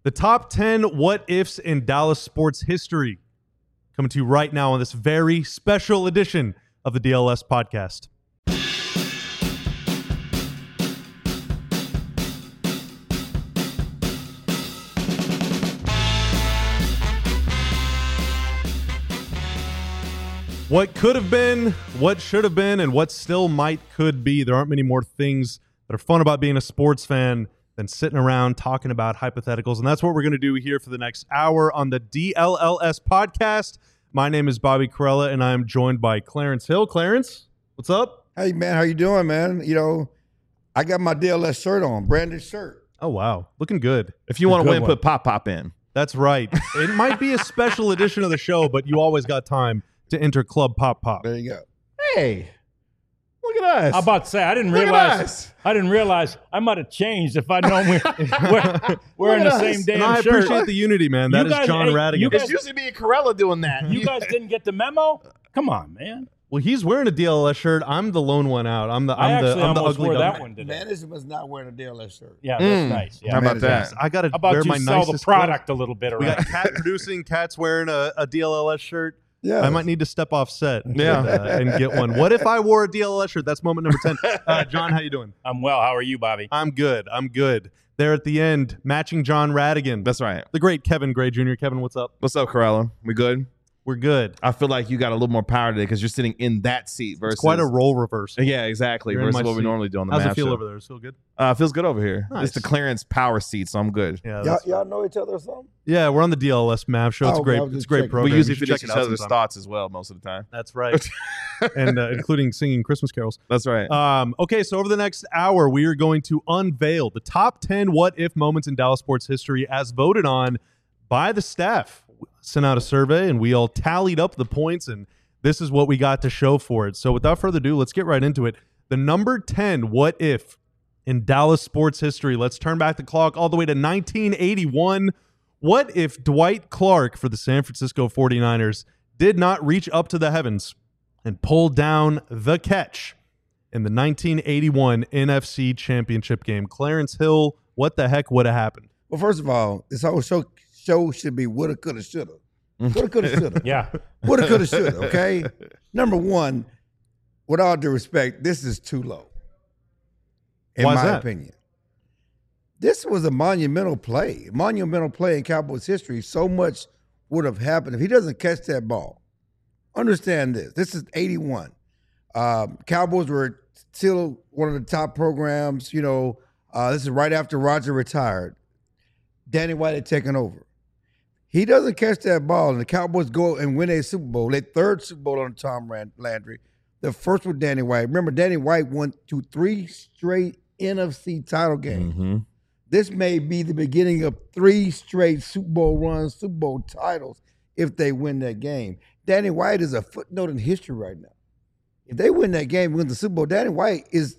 The top 10 what-ifs in Dallas sports history. Coming to you right now on this very special edition of the DLS podcast. What could have been, what should have been, and what still could be. There aren't many more things that are fun about being a sports fan than sitting around talking about hypotheticals. And that's what we're going to do here for the next hour on the DLLS podcast. My name is Bobby Corella, and I'm joined by Clarence Hill. Clarence, what's up? Hey, man, how you doing, man? You know, I got my DLS shirt on, branded shirt. Oh, wow. Looking good. If you want to win, put Pop in. That's right. It might be a special edition of the show, but you always got time to enter Club Pop. There you go. Hey, look at us. I'm about to say I didn't realize I might have changed if I'd known we're in the same damn and I shirt. appreciate the unity, man. That is John Radigan. It's usually me and Corella doing that. You guys didn't get the memo? Come on, man. Well, he's wearing a DLS shirt. I'm the lone one out. I'm the almost ugly wore guy. that one today. Management's not wearing a DLS shirt. Yeah, that's nice. Yeah. How about that? I got to How about wear you my sell nicest the product clothes. a little bit We around? got Kat producing. Kat's wearing a DLLS shirt. Yeah, I might need to step off set Yeah. and get one. What if I wore a DLLS shirt? That's moment number 10. John, how you doing? I'm well. How are you, Bobby? I'm good. There at the end, matching John Radigan. That's right. The great Kevin Gray Jr. Kevin, what's up? What's up, Corella? We good? We're good. I feel like you got a little more power today because you're sitting in that seat versus It's quite a role reversal. Yeah, exactly. You're in Versus my what we seat. normally do on the How's matchup. it feel over there? Does it feel good? Feels good over here. Nice. It's the Clarence power seat, so I'm good. Yeah, y'all know each other or something? yeah. We're on the DLS MAV show. It's Oh, great. I was It's just a great checking. program. We usually You should finish check each it out other's sometime. thoughts as well most of the time. That's right. And including singing Christmas carols. That's right. Okay, so over the next hour, we are going to unveil the top 10 what-if moments in Dallas sports history as voted on by the staff. Sent out a survey, and we all tallied up the points, and this is what we got to show for it. So without further ado, let's get right into it. The number 10 what-if in Dallas sports history. Let's turn back the clock all the way to 1981. What if Dwight Clark for the San Francisco 49ers did not reach up to the heavens and pull down the catch in the 1981 NFC Championship game? Clarence Hill, what the heck would have happened? Well, first of all, this whole show should be woulda, coulda, shoulda. Woulda, coulda, shoulda. Yeah. Woulda, coulda, shoulda, okay? Number one, with all due respect, this is too low. In Why is my that? opinion. This was a monumental play in Cowboys history. So much would have happened if he doesn't catch that ball. Understand this. This is 81. Cowboys were still one of the top programs. You know, this is right after Roger retired. Danny White had taken over. He doesn't catch that ball, and the Cowboys go and win a Super Bowl. Their third Super Bowl on Tom Landry. The first with Danny White. Remember, Danny White won 3 straight NFC title games. Mm-hmm. This may be the beginning of 3 straight Super Bowl runs, Super Bowl titles, if they win that game. Danny White is a footnote in history right now. If they win that game, win the Super Bowl, Danny White is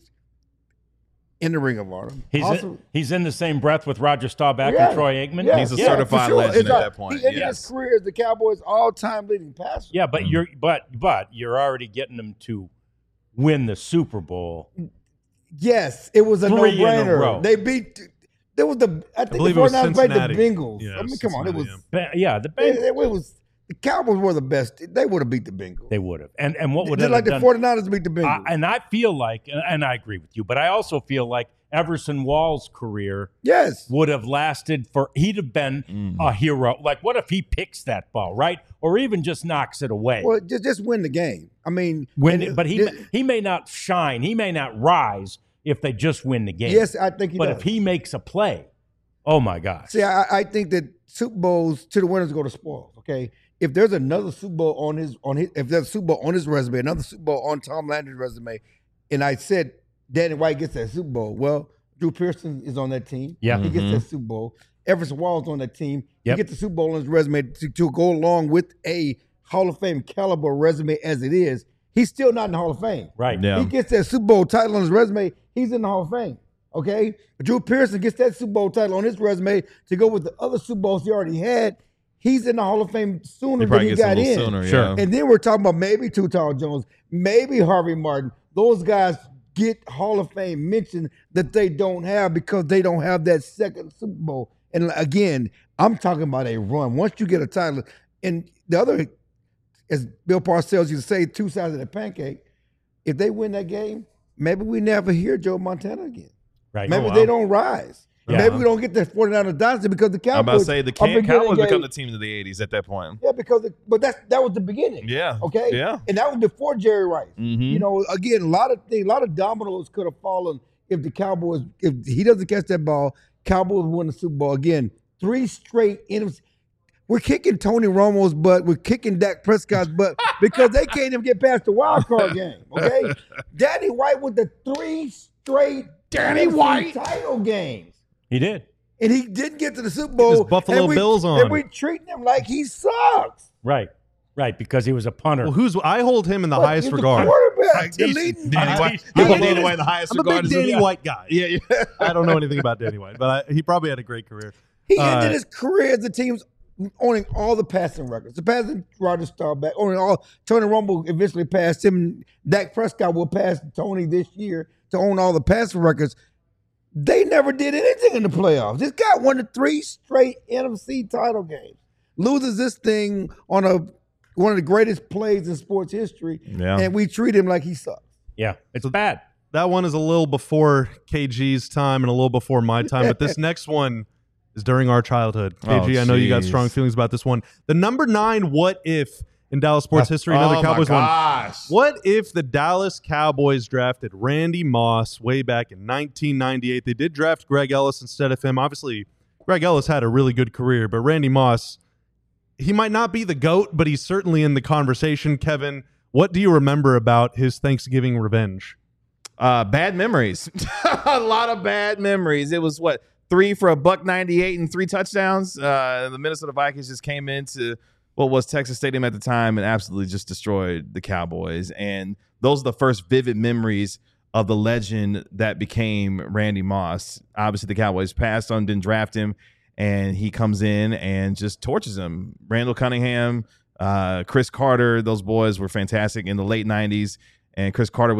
in the Ring of Honor. He's in the same breath with Roger Staubach Yeah. and Troy Aikman. Yeah. He's a Yeah, certified for sure. legend It's at a- that point. He ended Yes. his career as the Cowboys' all-time leading passer. Yeah, but you're already getting them to win the Super Bowl. Yes, it was a 3 in a no-brainer. row. They beat. There was I think believe the it was 49ers played the Cincinnati. Bengals. Yeah, I mean, come on, it was. Cincinnati, The Bengals. It was the Cowboys were the best. They would have beat the Bengals. They would have. And what would Just have like the done? 49ers beat the Bengals. And I feel like, and I agree with you, but I also feel like Everson Wall's career yes. would have lasted he'd have been a hero. Like, what if he picks that ball, right? Or even just knocks it away? Well, just win the game. I mean, But he may not shine. He may not rise if they just win the game. Yes, I think he But does. if he makes a play, oh my gosh. See, I think that Super Bowls to the winners go to spoils. Okay, if there's another Super Bowl on his if there's a Super Bowl on his resume, another Super Bowl on Tom Landry's resume, and I said Danny White gets that Super Bowl, well, Drew Pearson is on that team. Yeah. He gets that Super Bowl. Everson Wall's on that team. Yep. He gets the Super Bowl on his resume to go along with a Hall of Fame caliber resume as it is. He's still not in the Hall of Fame. Right. Yeah. He gets that Super Bowl title on his resume, he's in the Hall of Fame. Okay? Drew Pearson gets that Super Bowl title on his resume to go with the other Super Bowls he already had. He's in the Hall of Fame sooner than he got in. Sooner, Sure. yeah. And then we're talking about maybe Tutal Jones, maybe Harvey Martin. Those guys get Hall of Fame mention that they don't have because they don't have that second Super Bowl. And again, I'm talking about a run. Once you get a title, and the other, as Bill Parcells used to say, two sides of the pancake, if they win that game, maybe we never hear Joe Montana again. Right. Maybe they don't rise. Yeah. Maybe we don't get the 49ers dynasty because the Cowboys. I'm about to say the are Cowboys beginning become the team of the 80s at that point. Yeah, because but that was the beginning. Yeah. Okay. Yeah. And that was before Jerry Rice. Mhm. You know, again, a lot of dominoes could have fallen if the Cowboys, if he doesn't catch that ball, Cowboys win the Super Bowl again. 3 straight NFC. We're kicking Tony Romo's butt. We're kicking Dak Prescott's butt because they can't even get past the wild card game. Okay. Danny White with the 3 straight NFC title games. He did. And he didn't get to the Super Bowl. his Buffalo and Bills on. And we treating him like he sucks. Right. Right. Because he was a punter. Well, I hold him in the highest He's the regard. quarterback, the leading- Danny White. I You put teach- Danny White in the highest I'm a regard. big Danny White guy. Yeah. I don't know anything about Danny White, but he probably had a great career. He ended his career as the team's owning all the passing records. The passing Roger Staubach, owning all. Tony Romo eventually passed him. Dak Prescott will pass Tony this year to own all the passing records. They never did anything in the playoffs. This guy won the 3 straight NFC title games. Loses this thing on one of the greatest plays in sports history, and we treat him like he sucks. Yeah. It's bad. That one is a little before KG's time and a little before my time, but this next one is during our childhood. KG, I know you got strong feelings about this one. The number 9 what if in Dallas sports history, another Cowboys one. What if the Dallas Cowboys drafted Randy Moss way back in 1998? They did draft Greg Ellis instead of him. Obviously, Greg Ellis had a really good career, but Randy Moss, he might not be the GOAT, but he's certainly in the conversation. Kevin, what do you remember about his Thanksgiving revenge? Bad memories. A lot of bad memories. It was 3 for $198 and 3 touchdowns. The Minnesota Vikings just came into what was Texas Stadium at the time and absolutely just destroyed the Cowboys. And those are the first vivid memories of the legend that became Randy Moss. Obviously, the Cowboys passed on, didn't draft him, and he comes in and just torches him. Randall Cunningham, Chris Carter, those boys were fantastic in the late 90s. And Chris Carter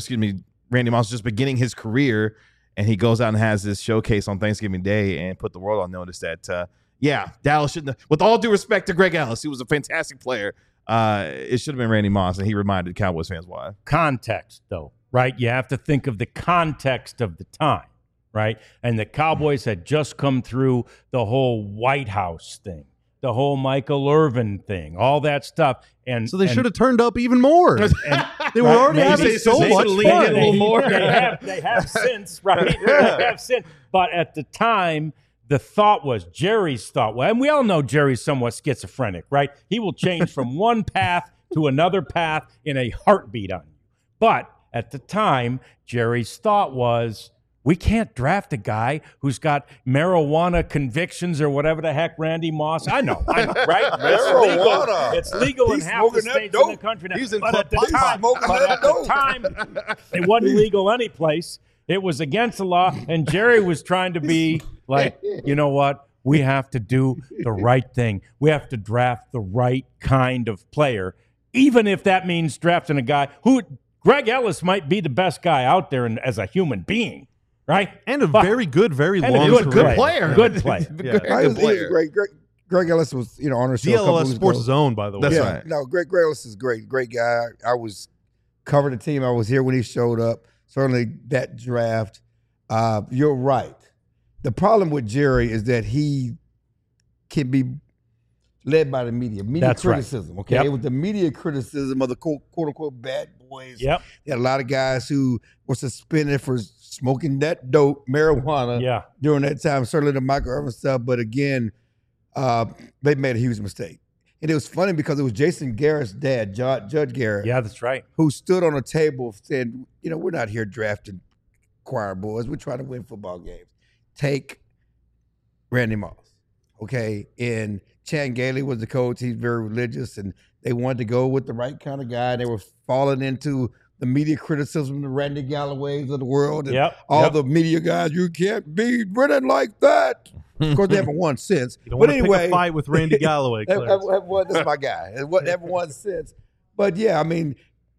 Randy Moss was just beginning his career, and he goes out and has this showcase on Thanksgiving Day and put the world on notice that, Dallas shouldn't have, with all due respect to Greg Ellis, he was a fantastic player. It should have been Randy Moss, and he reminded Cowboys fans why. Context, though, right? You have to think of the context of the time, right? And the Cowboys had just come through the whole White House thing, the whole Michael Irvin thing, all that stuff. And So they should have turned up even more. They were already having so much fun. a little more. They have since, right? They have since. But at the time, the thought was, Jerry's thought was, and we all know Jerry's somewhat schizophrenic, right? He will change from one path to another path in a heartbeat on you. But at the time, Jerry's thought was, we can't draft a guy who's got marijuana convictions or whatever the heck Randy Moss. I know, right? Marijuana. It's legal in He's half the smoking that states in the dope. country now. He's in But at the Club Pipe. time, Smoking that dope. it wasn't legal any place. It was against the law, and Jerry was trying to be like, you know what? We have to do the right thing. We have to draft the right kind of player, even if that means drafting a guy who Greg Ellis might be the best guy out there as a human being, right? And a very good, very And a long good career. player. Good player. He was great. Greg Ellis was, on our show a couple DLS weeks Sports ago. Zone, by the way. That's Yeah, right. no, Greg Ellis is great guy. I was covered the team. I was here when he showed up. Certainly that draft. You're right. The problem with Jerry is that he can be led by the media. That's right. criticism. Okay, Yep. it was the media criticism of the quote unquote bad boys. Yep. They had a lot of guys who were suspended for smoking that dope, marijuana, Yeah. during that time. Certainly the Michael Irvin stuff, but again, they made a huge mistake. And it was funny because it was Jason Garrett's dad, Judge Garrett, Yeah, that's right. who stood on a table saying, we're not here drafting choir boys. We're trying to win football games. Take Randy Moss, okay? And Chan Gailey was the coach. He's very religious, and they wanted to go with the right kind of guy. They were falling into the media criticism, the Randy Galloways of the world, and all the media guys. You can't be winning like that. Of course, they haven't won since. You don't But want to anyway, pick a fight with Randy Galloway. Clarence. that's my guy. Haven't won since. But yeah, I mean,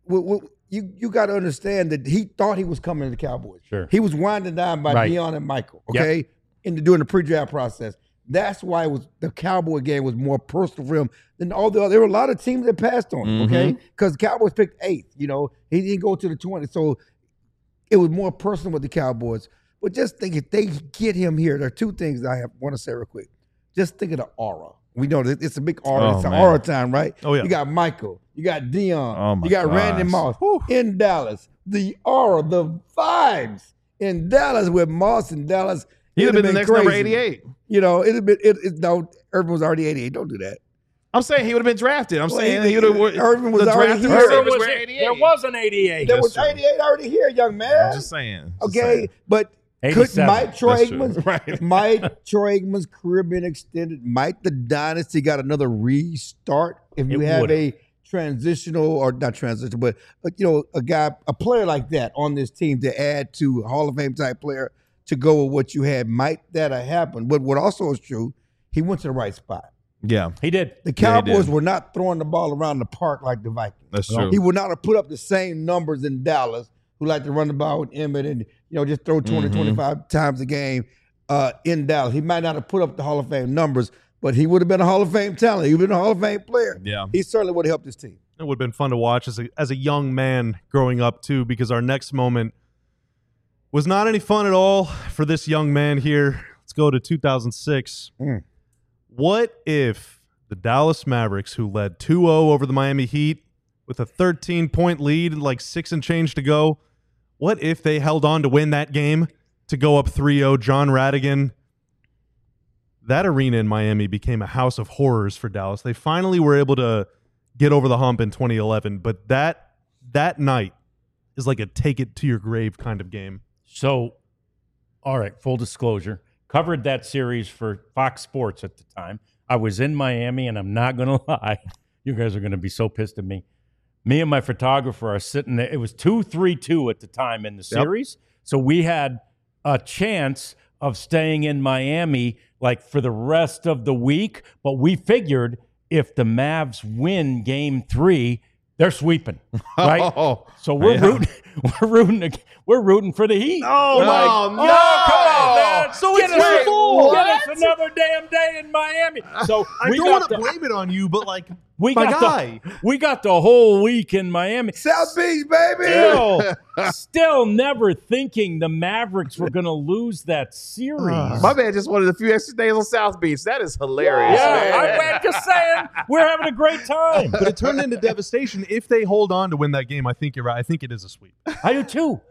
you got to understand that he thought he was coming to the Cowboys. Sure. He was winding down by Right. Deion and Michael, okay, during the pre-draft process. That's why the Cowboy game was more personal for him than all the other. There were a lot of teams that passed on him, okay? Because the Cowboys picked 8th. You know, he didn't go to the 20. So it was more personal with the Cowboys. But just think, if they get him here, there are 2 things I want to say real quick. Just think of the aura. We know that it's a big aura. It's an aura time, right? Oh, yeah. You got Michael. You got Dion. Oh, my you got Randy gosh. Moss in Dallas. The aura, the vibes in Dallas with Moss in Dallas. He'd have been the next number crazy. 88. You know, it'd have been no. Irvin was already 88. Don't do that. I'm saying he would have been drafted. I'm saying he would have. Irvin was the already drafted here. receivers There were 88. was an 88. There That's was true. 88 already here, young man. I'm just saying. Okay, but could 87. Mike Troy That's true. Aikman's Right. Mike Troy Aikman's career been extended? Might the dynasty got another restart if you It have would've. a transitional or not transitional, but you know, a player like that on this team to add to a Hall of Fame type player to go with what you had? Might that have happened? But what also is true, he went to the right spot. Yeah, He did. The Yeah, he Cowboys did. were not throwing the ball around the park like the Vikings. that's true. He would not have put up the same numbers in Dallas, who like to run the ball with Emmett and just throw 20, 25 times a game in Dallas. He might not have put up the Hall of Fame numbers, but he would have been a Hall of Fame talent. He would have been a Hall of Fame player. Yeah. He certainly would have helped his team. It would have been fun to watch as a young man growing up too, because our next moment was not any fun at all for this young man here. Let's go to 2006. What if the Dallas Mavericks, who led 2-0 over the Miami Heat with a 13-point lead and like 6 and change to go, what if they held on to win that game to go up 3-0? John Radigan. That arena in Miami became a house of horrors for Dallas. They finally were able to get over the hump in 2011, but that night is like a take it to your grave kind of game. So, all right, full disclosure. Covered that series for Fox Sports at the time. I was in Miami, and I'm not going to lie. You guys are going to be so pissed at me. Me and my photographer are sitting there. It was 2-3-2 at the time in the series. So we had a chance of staying in Miami like for the rest of the week. But we figured if the Mavs win Game 3, they're sweeping, right? Oh, So we're yeah. we're rooting for the Heat. Oh, We're no, no. come on, man. So Get it's us, your fault. get us another damn day in Miami. So I we don't got want to the blame it on you, but like we my got guy. we got the whole week in Miami. South Beach, baby. Still never thinking the Mavericks were going to lose that series. My man just wanted a few extra days on South Beach. That is hilarious. Yeah, man. I'm just saying we're having a great time. But it turned into devastation. If they hold on to win that game, I think you're right. I think it is a sweep. I do too.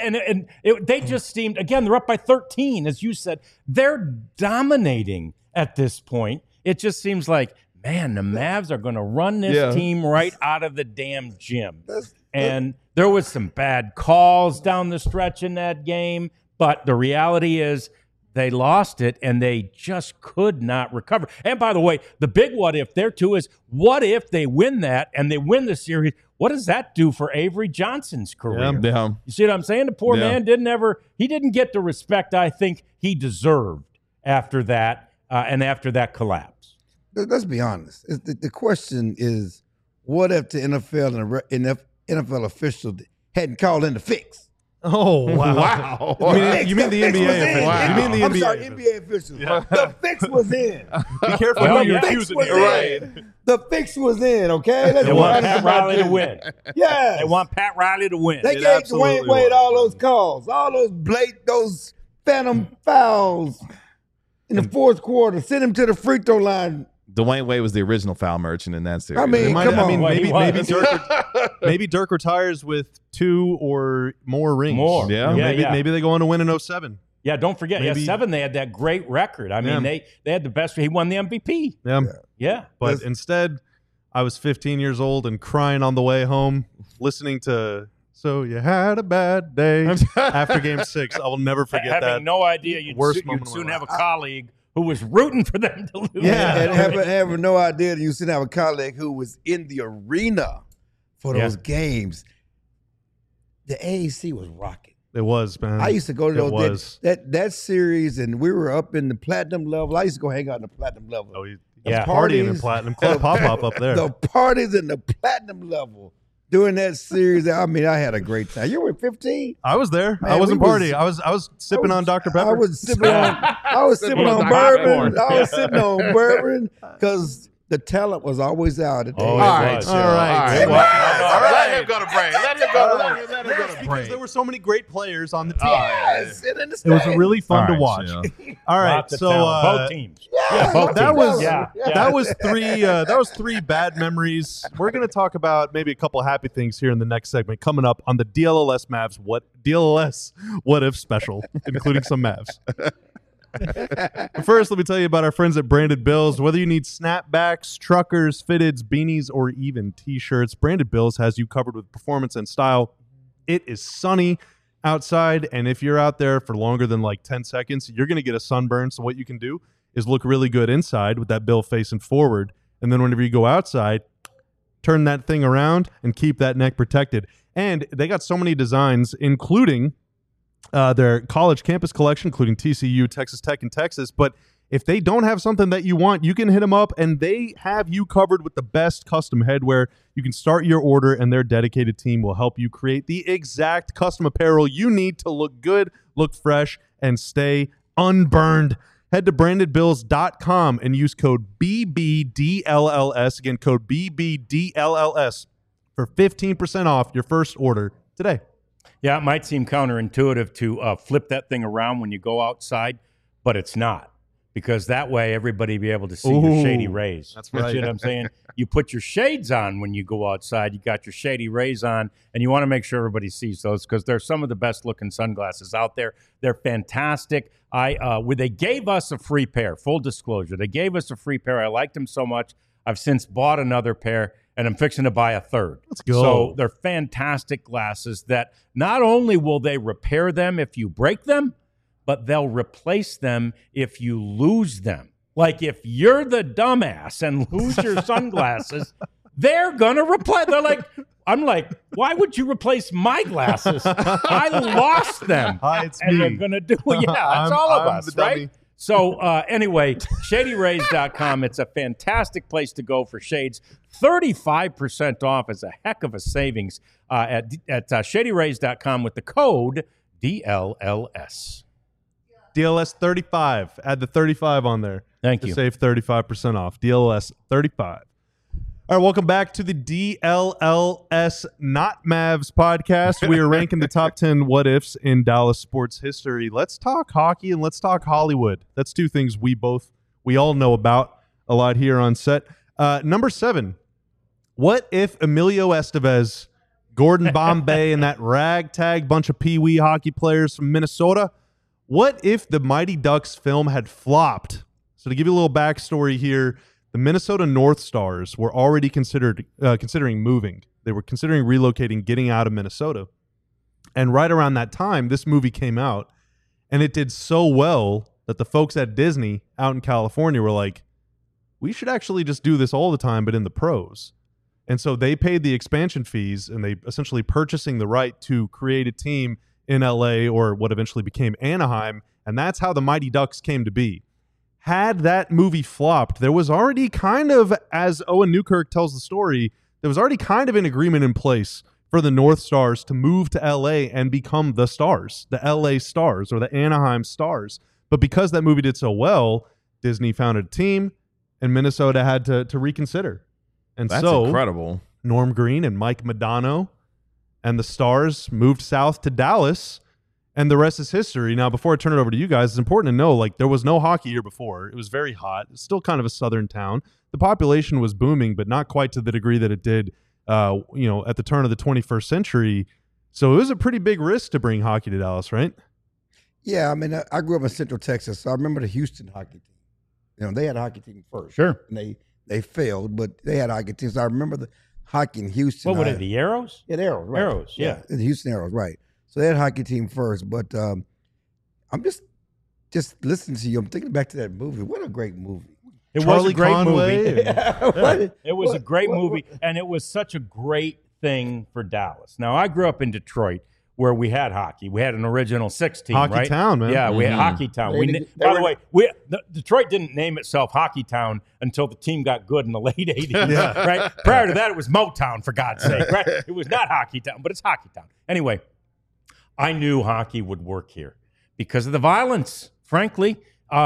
They just seemed, again, they're up by 13, as you said. They're dominating at this point. It just seems like, man, the Mavs are going to run this team right out of the damn gym. And there was some bad calls down the stretch in that game. But the reality is they lost it, and they just could not recover. And by the way, the big what if there too is, what if they win that and they win the series? What does that do for Avery Johnson's career? Yeah. You see what I'm saying? The poor Yeah. man didn't get the respect I think he deserved after that and after that collapse. Let's be honest. The question is, what if the NFL and NFL officials hadn't called in the fix? Oh, wow. Wow. You mean the fix NBA was in. officials. Wow. You mean the I'm NBA sorry, officials. NBA officials. The fix was in. Be careful Well, who you're yeah. accusing Fix was here. in. The fix was in, okay? Let's They be want honest Pat about Riley to this. win. Yes. They want Pat Riley to win. They It gave absolutely Dwayne Wade was. all those calls, all those phantom fouls in the fourth quarter. Send him to the free throw line. Dwayne Wade was the original foul merchant in that series. I mean, It might- come on. Well, he was. Maybe Dirk retires with 2 or more rings. More. Yeah. You know, Yeah, maybe they go on to win in 07. Yeah, don't forget. Maybe- 7, they had that great record. I mean, Yeah. they had the best. He won the MVP. Yeah. Yeah. But instead, I was 15 years old and crying on the way home, listening to "So You Had a Bad Day" after Game 6. I will never forget Having that. no idea you'd Worst moment you'd of my soon life. have a colleague who was rooting for them to lose. Yeah. And having no idea that you should have a colleague who was in the arena for those games. The AAC was rocking. It was, man. I used to go to It those was. that series, and we were up in the platinum level. I used to go hang out in the platinum level. Oh, he Yeah. was partying in Parties. Platinum Club Pop-Up up there. The parties in the platinum level During that series, I mean, I had a great time. You were 15. I was there. Man, I wasn't we was- partying. I was sipping on Dr. Pepper. I was sipping on Sipping on bourbon. popcorn. I was sipping on bourbon because the talent was always out at the Oh, age. it All right, was. chill. All right. All All right. right. Let him go to break. Let him go to because break. there were so many great players on the team. Yes, and in the It was States. really fun to All right, watch. chill. All right, Lots of so talent. Both teams. Yeah, both that teams. was Yeah. that was three bad memories. We're going to talk about maybe a couple happy things here in the next segment coming up on the DLLS Mavs what if special, including some Mavs. But first, let me tell you about our friends at Branded Bills. Whether you need snapbacks, truckers, fitteds, beanies, or even t-shirts, Branded Bills has you covered with performance and style. It is sunny outside, and if you're out there for longer than like 10 seconds, you're going to get a sunburn. So what you can do is look really good inside with that bill facing forward, and then whenever you go outside, turn that thing around and keep that neck protected. And they got so many designs, including their college campus collection, including TCU, Texas Tech, and Texas. But if they don't have something that you want, you can hit them up, and they have you covered with the best custom headwear. You can start your order, and their dedicated team will help you create the exact custom apparel you need to look good, look fresh, and stay unburned. Head to brandedbills.com and use code BBDLLS. Again, code BBDLLS for 15% off your first order today. Yeah, it might seem counterintuitive to flip that thing around when you go outside, but it's not. Because that way everybody be able to see your shady rays. That's You right. see what I'm saying? You put your shades on when you go outside. You got your shady rays on, and you want to make sure everybody sees those because they're some of the best looking sunglasses out there. They're fantastic. They gave us a free pair. Full disclosure, they gave us a free pair. I liked them so much. I've since bought another pair, and I'm fixing to buy a third. Let's go. So they're fantastic glasses that not only will they repair them if you break them, but they'll replace them if you lose them. Like if you're the dumbass and lose your sunglasses, they're going to replace. I'm like, why would you replace my glasses? I lost them. Hi, it's and me. they're going to do it. Yeah, it's all of I'm us, the dummy. right? So anyway, shadyrays.com. It's a fantastic place to go for shades. 35% off is a heck of a savings at shadyrays.com with the code DLLS. DLS 35. Add the 35 on there. Thank to you. save 35% off. DLS 35. All right, welcome back to the DLLS Not Mavs podcast. We are ranking the top 10 what ifs in Dallas sports history. Let's talk hockey and let's talk Hollywood. That's two things we all know about a lot here on set. Number 7. What if Emilio Estevez, Gordon Bombay, and that ragtag bunch of pee-wee hockey players from Minnesota, what if the Mighty Ducks film had flopped? So to give you a little backstory here, the Minnesota North Stars were already considering moving. They were considering relocating, getting out of Minnesota. And right around that time, this movie came out, and it did so well that the folks at Disney out in California were like, we should actually just do this all the time, but in the pros. And so they paid the expansion fees, and they essentially purchasing the right to create a team in LA or what eventually became Anaheim, and that's how the Mighty Ducks came to be. Had that movie flopped, there was already kind of, as Owen Newkirk tells the story, there was already kind of an agreement in place for the North Stars to move to LA and become the Stars, the LA Stars or the Anaheim Stars. But because that movie did so well, Disney founded a team, and Minnesota had to reconsider. And That's so incredible. Norm Green and Mike Modano and the Stars moved south to Dallas, and the rest is history. Now, before I turn it over to you guys, it's important to know, like, there was no hockey here before. It was very hot. It's still kind of a southern town. The population was booming, but not quite to the degree that it did, at the turn of the 21st century. So it was a pretty big risk to bring hockey to Dallas, right? Yeah, I mean, I grew up in Central Texas, so I remember the Houston hockey team. They had a hockey team first. Sure. And they failed, but they had a hockey team. So I remember the hockey in Houston. What were they, the Arrows? Yeah, the Arrows, right. Arrows, yeah. The Houston Arrows, right. So they had a hockey team first, but I'm just listening to you. I'm thinking back to that movie. What a great movie. It was Charlie a great Conway movie. and- It was a great movie, and it was such a great thing for Dallas. Now, I grew up in Detroit, where we had hockey. We had an original 6 team, Hockey right? Town, man. Yeah, we had Hockey Town. By the way, Detroit didn't name itself Hockey Town until the team got good in the late 80s, right? Prior to that, it was Motown, for God's sake, right? It was not Hockey Town, but it's Hockey Town. Anyway, I knew hockey would work here because of the violence, frankly.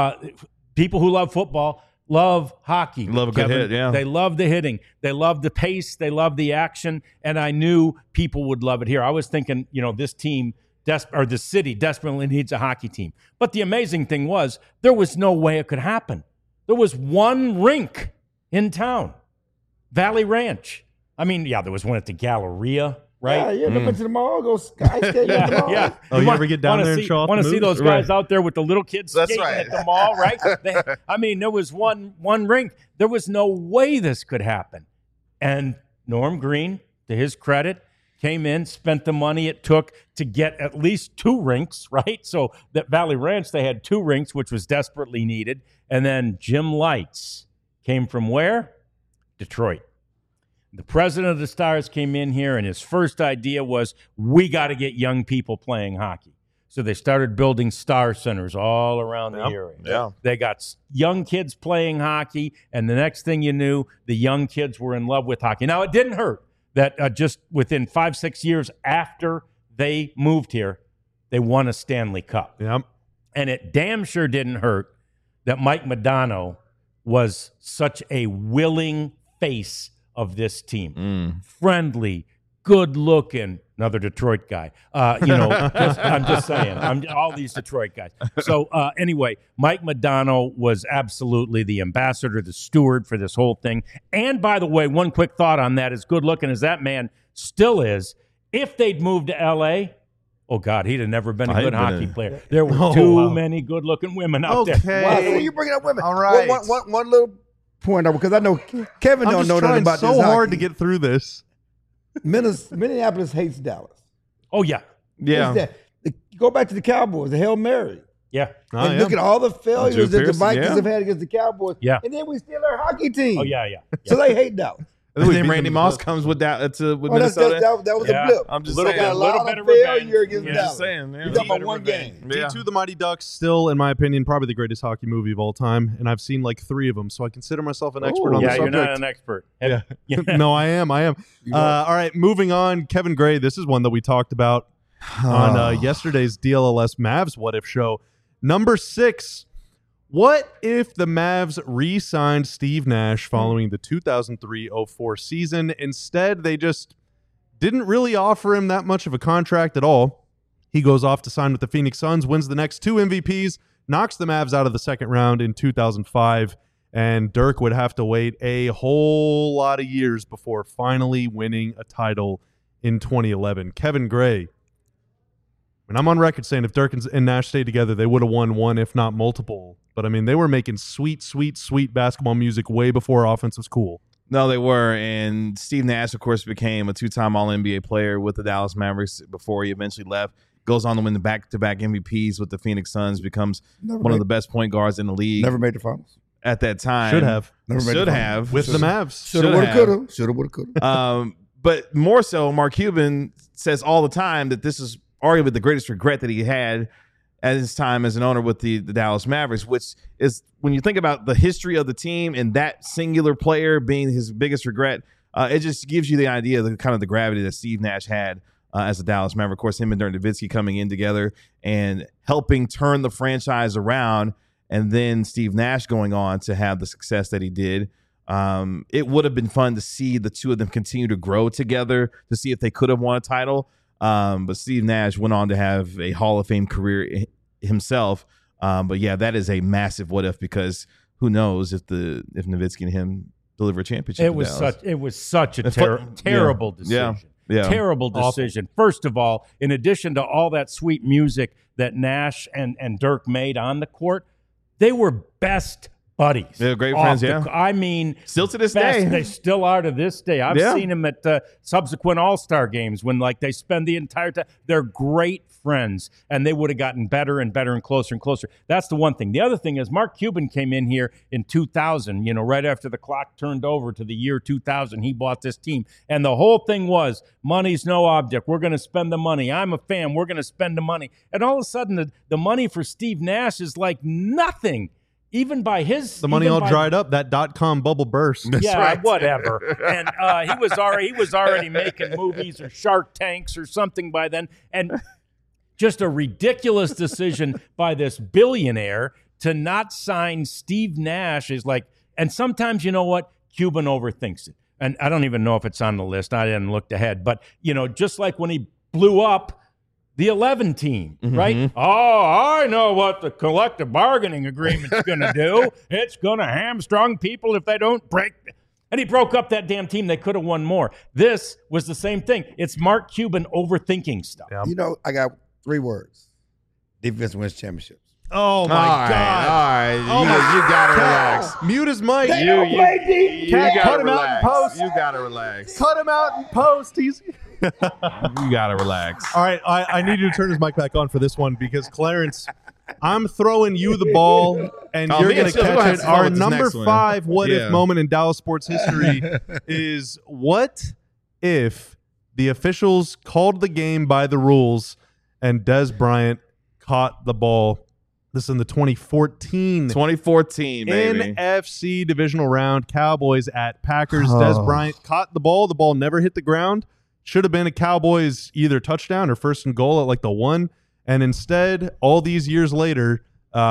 People who love football love hockey. Love a good hit, yeah. They love the hitting. They love the pace. They love the action. And I knew people would love it here. I was thinking, this team, this city desperately needs a hockey team. But the amazing thing was, there was no way it could happen. There was one rink in town, Valley Ranch. I mean, there was one at the Galleria, right? Yeah, you ever been to the mall? Go ice skating at the mall? Yeah. Oh, you ever get down there and show off? Want to see those guys out there with the little kids That's skating right. at the mall, right? There was one rink. There was no way this could happen. And Norm Green, to his credit, came in, spent the money it took to get at least 2 rinks, right? So that Valley Ranch, they had 2 rinks, which was desperately needed. And then Jim Lights came from where? Detroit. The president of the Stars came in here, and his first idea was, we got to get young people playing hockey. So they started building Star Centers all around the area. Yeah. They got young kids playing hockey, and the next thing you knew, the young kids were in love with hockey. Now, it didn't hurt that just within 5-6 years after they moved here, they won a Stanley Cup. Yep. And it damn sure didn't hurt that Mike Modano was such a willing face of this team. Friendly, good-looking, another Detroit guy. I'm just saying. All these Detroit guys. So anyway, Mike Modano was absolutely the ambassador, the steward for this whole thing. And by the way, one quick thought on that, as good-looking as that man still is, if they'd moved to L.A., oh, God, he'd have never been a good hockey player. There were too many good-looking women out there. Wow, so you bringing up women. All right. One little point, because I know Kevin I'm don't just know nothing trying about so this hard to hockey. get through this. Minneapolis hates Dallas. Oh, yeah. Yeah. Hates that. Go back to the Cowboys, the Hail Mary. Yeah. Oh, And yeah. look at all the failures that the Pearson, Vikings yeah. have had against the Cowboys. Yeah. And then we steal our hockey team. Oh, yeah. So they hate Dallas. And We then beat Randy them Moss with- comes with that with Oh, Minnesota. that was Yeah. a blip. I'm just So saying. got a Little lot bit of of revenge. failure against Yeah. Dallas. Just saying, yeah. You're talking about Little one bit of game. revenge. Yeah. D2 The Mighty Ducks, still, in my opinion, probably the greatest hockey movie of all time. And I've seen like 3 of them, so I consider myself an expert on the Yeah, you're subject. not an expert. Yeah. No, I am. All right, moving on. Kevin Gray, this is one that we talked about on yesterday's DLLS Mavs What If show. Number 6, what if the Mavs re-signed Steve Nash following the 2003-04 season? Instead, they just didn't really offer him that much of a contract at all. He goes off to sign with the Phoenix Suns, wins the next 2 MVPs, knocks the Mavs out of the second round in 2005, and Dirk would have to wait a whole lot of years before finally winning a title in 2011. Kevin Gray, and I'm on record saying if Dirk and Nash stayed together, they would have won one, if not multiple. But, I mean, they were making sweet, sweet, sweet basketball music way before offense was cool. No, they were. And Steve Nash, of course, became a 2-time All-NBA player with the Dallas Mavericks before he eventually left. Goes on to win the back-to-back MVPs with the Phoenix Suns, becomes one of the best point guards in the league Never made the finals. at that time. Should have. Never made the Should finals. have. With the Mavs. Shoulda, woulda, coulda. Shoulda, woulda, coulda. But more so, Mark Cuban says all the time that this is arguably the greatest regret that he had at his time as an owner with the Dallas Mavericks, which is, when you think about the history of the team and that singular player being his biggest regret, it just gives you the idea of the kind of the gravity that Steve Nash had as a Dallas Maverick. Of course, him and Dirk Nowitzki coming in together and helping turn the franchise around, and then Steve Nash going on to have the success that he did. It would have been fun to see the two of them continue to grow together, to see if they could have won a title. But Steve Nash went on to have a Hall of Fame career himself. But yeah, that is a massive what if, because who knows if Nowitzki and him deliver a championship. It was such a terrible decision. Yeah. Terrible decision. First of all, in addition to all that sweet music that Nash and Dirk made on the court, they were best buddies. They're great friends, yeah. I mean, Still to this best. day. They still are to this day. I've Yeah. seen them at subsequent All-Star games when like they spend the entire time. They're great friends, and they would have gotten better and better and closer and closer. That's the one thing. The other thing is Mark Cuban came in here in 2000, right after the clock turned over to the year 2000. He bought this team, and the whole thing was money's no object. We're going to spend the money. I'm a fan. We're going to spend the money. And all of a sudden, the money for Steve Nash is like nothing. Even by his The money all dried up. That .com bubble burst. yeah, right. whatever. And he was already making movies or Shark Tanks or something by then. And just a ridiculous decision by this billionaire to not sign Steve Nash is like. And sometimes, you know what, Cuban overthinks it. And I don't even know if it's on the list. I didn't look ahead. But just like when he blew up the 11 team, right? Oh, I know what the collective bargaining agreement's going to do. It's going to hamstrung people if they don't break. And he broke up that damn team. They could have won more. This was the same thing. It's Mark Cuban overthinking stuff. Yeah. I got 3 words. Defense wins championships. Oh, my All God. right. You got to relax. Mute his mic. You Cat, gotta cut him out in relax. post. You got to relax. Cut him out in post. He's. You got to relax. All right, I need you to turn his mic back on for this one because Clarence, I'm throwing you the ball and Oh, you're me going and to Phil, we're gonna catch have it. to follow Our with this number next one. 5 what if Yeah. moment in Dallas sports history is what if the officials called the game by the rules and Des Bryant caught the ball. This is in the 2014 baby. NFC divisional round. Cowboys at Packers. Des Bryant caught the ball. The ball never hit the ground. Should have been a Cowboys either touchdown or first and goal at like the 1. And instead, all these years later,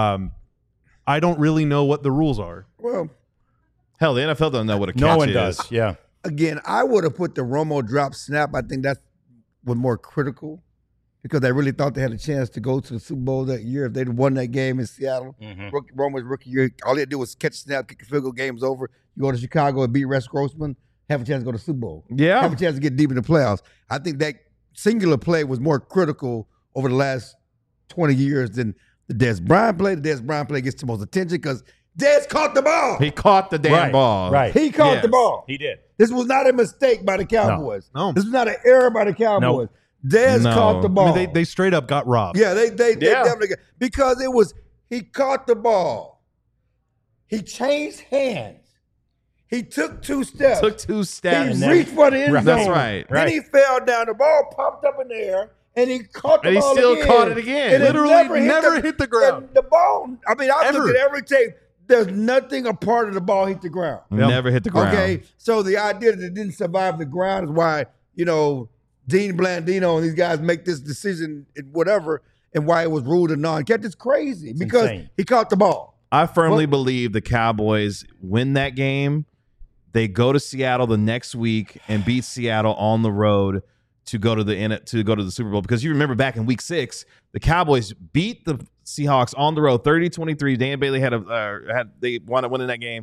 I don't really know what the rules are. Well, Hell, the NFL doesn't know what a catch No one is. does. Yeah. again, I would have put the Romo drop snap. I think that was more critical because they really thought they had a chance to go to the Super Bowl that year if they'd won that game in Seattle. Romo's rookie year, all they had to do was catch a snap, kick a field goal, game's over. You go to Chicago and beat Rex Grossman, have a chance to go to the Super Bowl. Yeah. Have a chance to get deep in the playoffs. I think that singular play was more critical over the last 20 years than the Des Bryant play. The Des Bryant play gets the most attention because Des caught the ball. He caught the damn Right, ball. right. He caught Yes. the ball. He did. This was not a mistake by the Cowboys. No. This was not an error by the Cowboys. Dez No. caught the I ball. mean, they straight up got robbed. yeah, they Yeah. definitely got, because it was he caught the ball. He changed hands. He took 2 steps. Took 2 he steps. reached for the end zone. That's right. Then he fell down. The ball popped up in the air, and he caught the And he ball still again. caught it again. And it Literally never hit the ground. and the ball. I mean, I Ever. looked at every tape. There's nothing a part of the ball hit the ground. Never hit the ground. Okay, so the idea that it didn't survive the ground is why, Dean Blandino and these guys make this decision and whatever, and why it was ruled a non-catch. It's crazy because insane. he caught the ball. I firmly believe the Cowboys win that game. They go to Seattle the next week and beat Seattle on the road to go to the Super Bowl. Because you remember back in Week 6, the Cowboys beat the Seahawks on the road 30-23. Dan Bailey they wound up winning that game.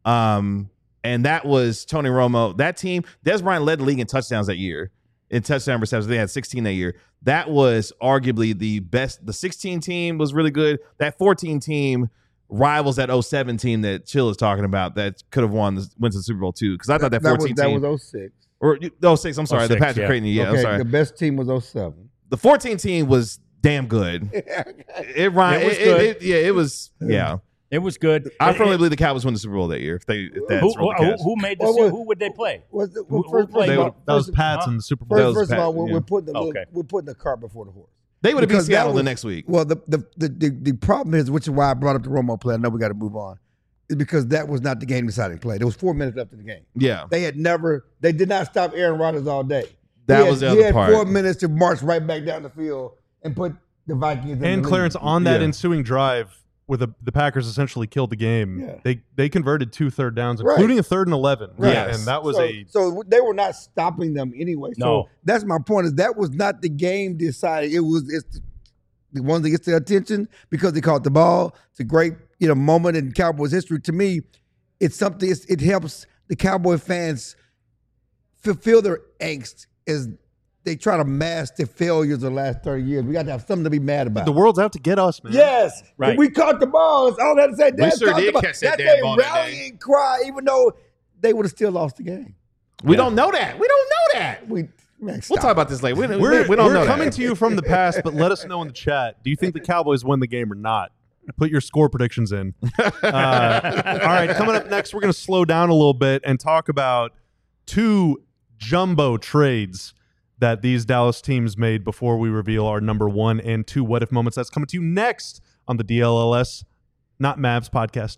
And that was Tony Romo. That team, Des Bryant led the league in touchdowns that year. In touchdown receptions, they had 16 that year. That was arguably the best. The 16 team was really good. That 14 team rivals that 07 team that Chill is talking about that could have went to the Super Bowl too. Because I thought that 14 that team was 06. or 06. I'm sorry, the 06, Patrick yeah. Creighton. Yeah, okay, I'm sorry. the best team was 07. The 14 team was damn good. It was good. It was. Yeah, It was good. I firmly believe the Cowboys win the Super Bowl that year. If that's Who made the Well, who would they play? Who played? That was Pats in the Super Bowl. First of all, Pat, yeah. we're putting Okay. we're putting the cart before the horse. they would have beat Because that Seattle the was- next week. Well, the problem is, which is why I brought up the Romo play. I know we got to move on, is because that was not the game deciding play. There was 4 minutes left in the game. Yeah, They did not stop Aaron Rodgers all day. That was the he other had part. 4 minutes to march right back down the field and put the Vikings in the And lead. Clarence, on that Yeah. ensuing drive where the Packers essentially killed the game, Yeah. they converted 2 third downs, Right. including a 3rd and 11. Right. Yes. And that was so they were not stopping them anyway. So No. that's my point. Is that was not the game decided. It's the one that gets their attention because they caught the ball. It's a great moment in Cowboys history. To me, it's something. It helps the Cowboy fans feel their angst as they try to mask the failures of the last 30 years. We got to have something to be mad about. The world's out to get us, man. Yes. Right. If we caught the ball. That's all I had to say. We sure did catch that damn ball that day. Rallying cry, even though they would have still lost the game. We don't know that. We don't know that. Man, We'll stop. talk about this later. We don't We're know coming that. to you from the past, but let us know in the chat. Do you think the Cowboys win the game or not? Put your score predictions in. All right, coming up next, we're going to slow down a little bit and talk about 2 jumbo trades that these Dallas teams made before we reveal our number 1 and 2 what if moments. That's coming to you next on the DLLS, not Mavs podcast.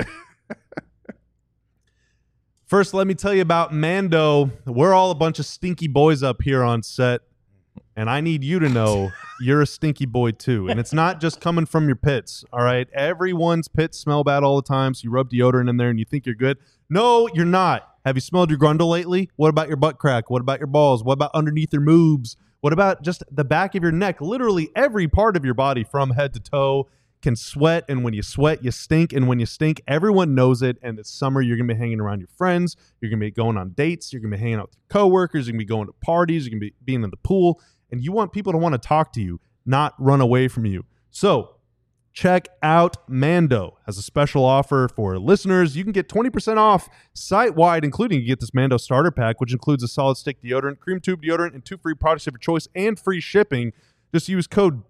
First, let me tell you about Mando. We're all a bunch of stinky boys up here on set, and I need you to know you're a stinky boy too. And it's not just coming from your pits, all right? Everyone's pits smell bad all the time, so you rub deodorant in there and you think you're good. No, you're not. Have you smelled your grundle lately? What about your butt crack? What about your balls? What about underneath your moobs? What about just the back of your neck? Literally every part of your body from head to toe can sweat, and when you sweat, you stink, and when you stink, everyone knows it. And it's summer, you're going to be hanging around your friends, you're going to be going on dates, you're going to be hanging out with your coworkers, you're going to be going to parties, you're going to be being in the pool, and you want people to want to talk to you, not run away from you. So check out Mando. Has a special offer for listeners. You can get 20% off site-wide, including you get this Mando starter pack, which includes a solid stick deodorant, cream tube deodorant, and 2 free products of your choice and free shipping. Just use code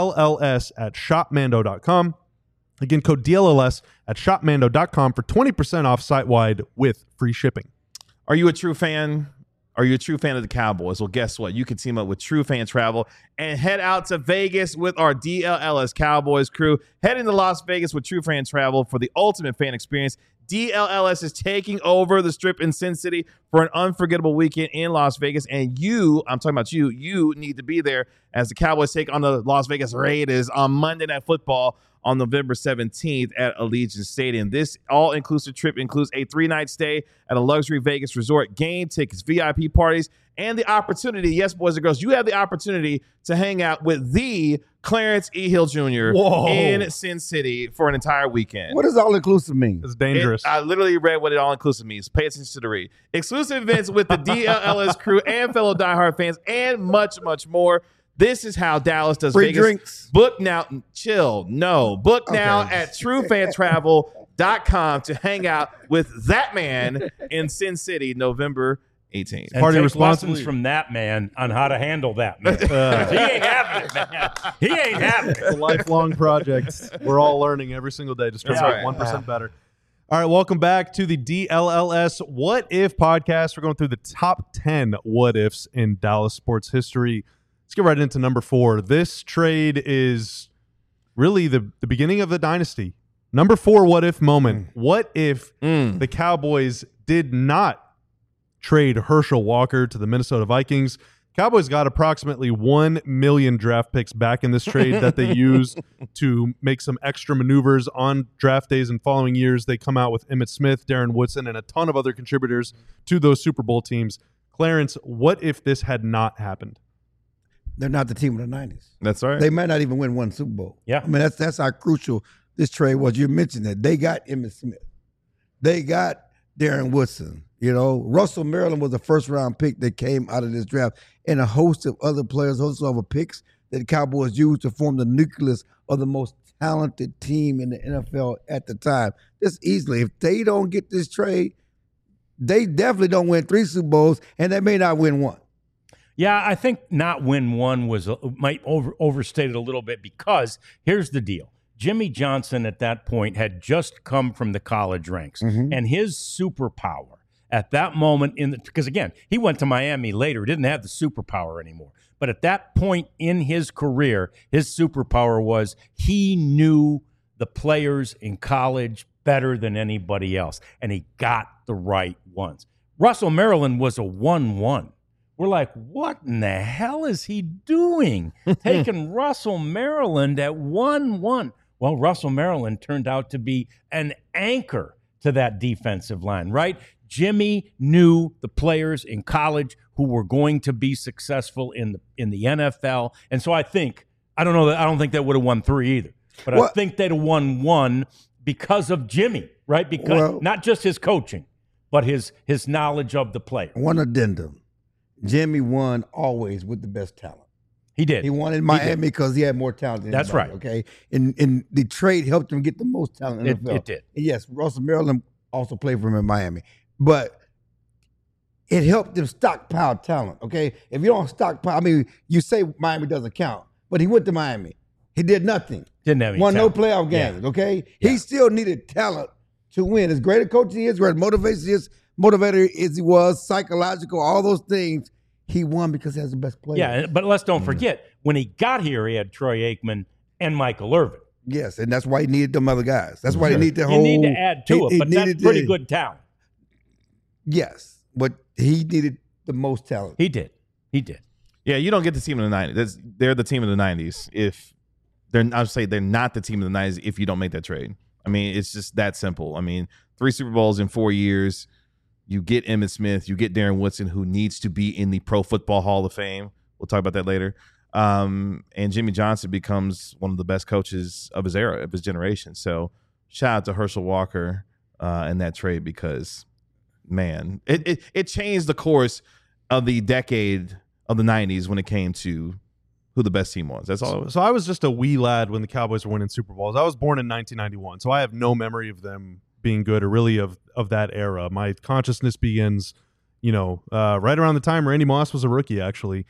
DLLS at shopmando.com. Again, code DLLS at shopmando.com for 20% off site-wide with free shipping. Are you a true fan? Are you a true fan of the Cowboys? Well, guess what? You can team up with True Fan Travel and head out to Vegas with our DLLS Cowboys crew. Head into Las Vegas with True Fan Travel for the ultimate fan experience. DLLS is taking over the Strip in Sin City for an unforgettable weekend in Las Vegas. And you, I'm talking about you need to be there as the Cowboys take on the Las Vegas Raiders on Monday Night Football on November 17th at Allegiant Stadium. This all-inclusive trip includes a 3-night stay at a luxury Vegas resort, game tickets, VIP parties, and the opportunity, yes, boys and girls, you have the opportunity to hang out with the Clarence E. Hill Jr. Whoa. in Sin City for an entire weekend. What does all-inclusive mean? It's dangerous. I literally read what it all-inclusive means. Pay attention to the read. Exclusive events with the DLLS crew and fellow diehard fans and much, much more. This is how Dallas does Free Vegas. drinks. Book now. Chill. No. Book now Okay. at truefantravel.com to hang out with that man in Sin City, November 18th. And Party take responsibly. lessons from that man on how to handle that man. 'Cause he ain't having it, man. He ain't having It's a it. lifelong project. We're all learning every single day, just trying to That's get right. 1% better. All right, welcome back to the DLLS What If podcast. We're going through the top 10 what ifs in Dallas sports history. Let's get right into number 4. This trade is really the beginning of the dynasty. Number 4 what if moment. What if the Cowboys did not trade Herschel Walker to the Minnesota Vikings? Cowboys got approximately 1 million draft picks back in this trade that they used to make some extra maneuvers on draft days in following years. They come out with Emmitt Smith, Darren Woodson, and a ton of other contributors to those Super Bowl teams. Clarence, what if this had not happened? They're not the team of the 90s. That's right. They might not even win one Super Bowl. Yeah. I mean, that's how crucial this trade was. You mentioned that. They got Emmitt Smith. They got Darren Woodson. You know, Russell Maryland was a first-round pick that came out of this draft, and a host of other players, host of other picks that the Cowboys used to form the nucleus of the most talented team in the NFL at the time. Just easily, if they don't get this trade, they definitely don't win 3 Super Bowls, and they may not win 1. Yeah, I think not win one was might overstate it a little bit, because here's the deal. Jimmy Johnson at that point had just come from the college ranks, and his superpower at that moment because again, he went to Miami later, didn't have the superpower anymore. But at that point in his career, his superpower was he knew the players in college better than anybody else, and he got the right ones. Russell Maryland was a 1-1. We're like, what in the hell is he doing? Taking Russell Maryland at 1-1. Well, Russell Maryland turned out to be an anchor to that defensive line, right? Jimmy knew the players in college who were going to be successful in the NFL. And so I think I don't think they would have won 3 either. But I think they'd have won 1 because of Jimmy, right? Because not just his coaching, but his knowledge of the player. One addendum. Jimmy won always with the best talent. He did. He won in Miami because he had more talent than That's anybody, right. Okay, and the trade helped him get the most talent in the NFL. It did. And yes, Russell Maryland also played for him in Miami, but it helped him stockpile talent. Okay, if you don't stockpile, I mean, you say Miami doesn't count, but he went to Miami. He did nothing. Didn't have any Won talent. no playoff games. Yeah. Okay, Yeah. he still needed talent to win. As great a coach he is, great motivator as he was, psychological, all those things. He won because he has the best player. Yeah, but let's don't forget, when he got here, he had Troy Aikman and Michael Irvin. Yes, and that's why he needed them other guys. That's why he needed the You whole. need to add to it, but that's needed pretty good talent. Yes, but he needed the most talent. He did. Yeah, you don't get the team in the 90s. They're the team of the 90s. If I'll say they're not the team of the 90s if you don't make that trade. I mean, it's just that simple. I mean, 3 Super Bowls in 4 years. You get Emmitt Smith. You get Darren Woodson, who needs to be in the Pro Football Hall of Fame. We'll talk about that later. And Jimmy Johnson becomes one of the best coaches of his era, of his generation. So shout out to Herschel Walker in that trade because, man, it changed the course of the decade of the 90s when it came to who the best team was. That's all it was. So I was just a wee lad when the Cowboys were winning Super Bowls. I was born in 1991, so I have no memory of them being good or really of that era. My consciousness begins, right around the time Randy Moss was a rookie, actually.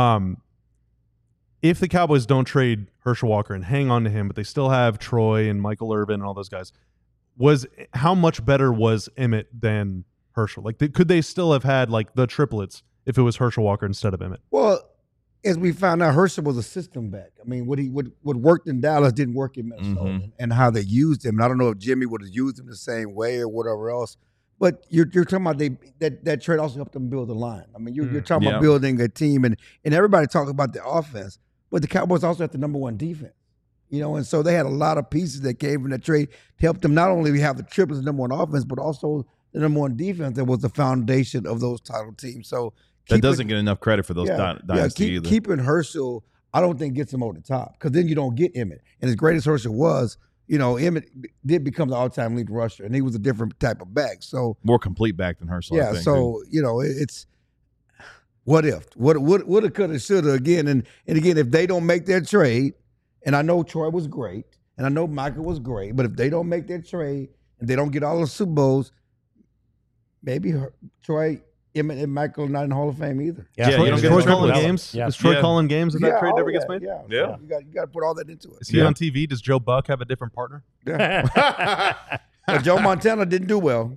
If the Cowboys don't trade Herschel Walker and hang on to him, but they still have Troy and Michael Irvin and all those guys, how much better was Emmitt than Herschel? Like, could they still have had like the triplets if it was Herschel Walker instead of Emmitt? Well, as we found out, Herschel was a system back. I mean, what worked in Dallas didn't work in Minnesota, and how they used him. And I don't know if Jimmy would have used him the same way or whatever else. But you're talking about that trade also helped them build a line. I mean, you're talking about building a team, and everybody talks about the offense, but the Cowboys also have the number one defense. And so they had a lot of pieces that came from that trade to help them not only have the triplets, the number one offense, but also the number one defense that was the foundation of those title teams. So that doesn't get enough credit for those dynasty either. Keeping Herschel, I don't think gets him over the top because then you don't get Emmitt. And as great as Herschel was, Emmitt did become the all-time lead rusher, and he was a different type of back. So more complete back than Herschel. Yeah. I think, so it's what if, woulda, coulda, shoulda again, and again if they don't make their trade, and I know Troy was great, and I know Michael was great, but if they don't make their trade and they don't get all the Super Bowls, maybe Troy. Emmitt and Michael are not in the Hall of Fame either. Yeah, Troy, you don't is get Troy triple calling dollars. games? Yeah. Is Troy Yeah. calling games if that trade never gets made? Yeah. Yeah. So you got to put all that into it. Is he on TV? Does Joe Buck have a different partner? But Joe Montana didn't do well.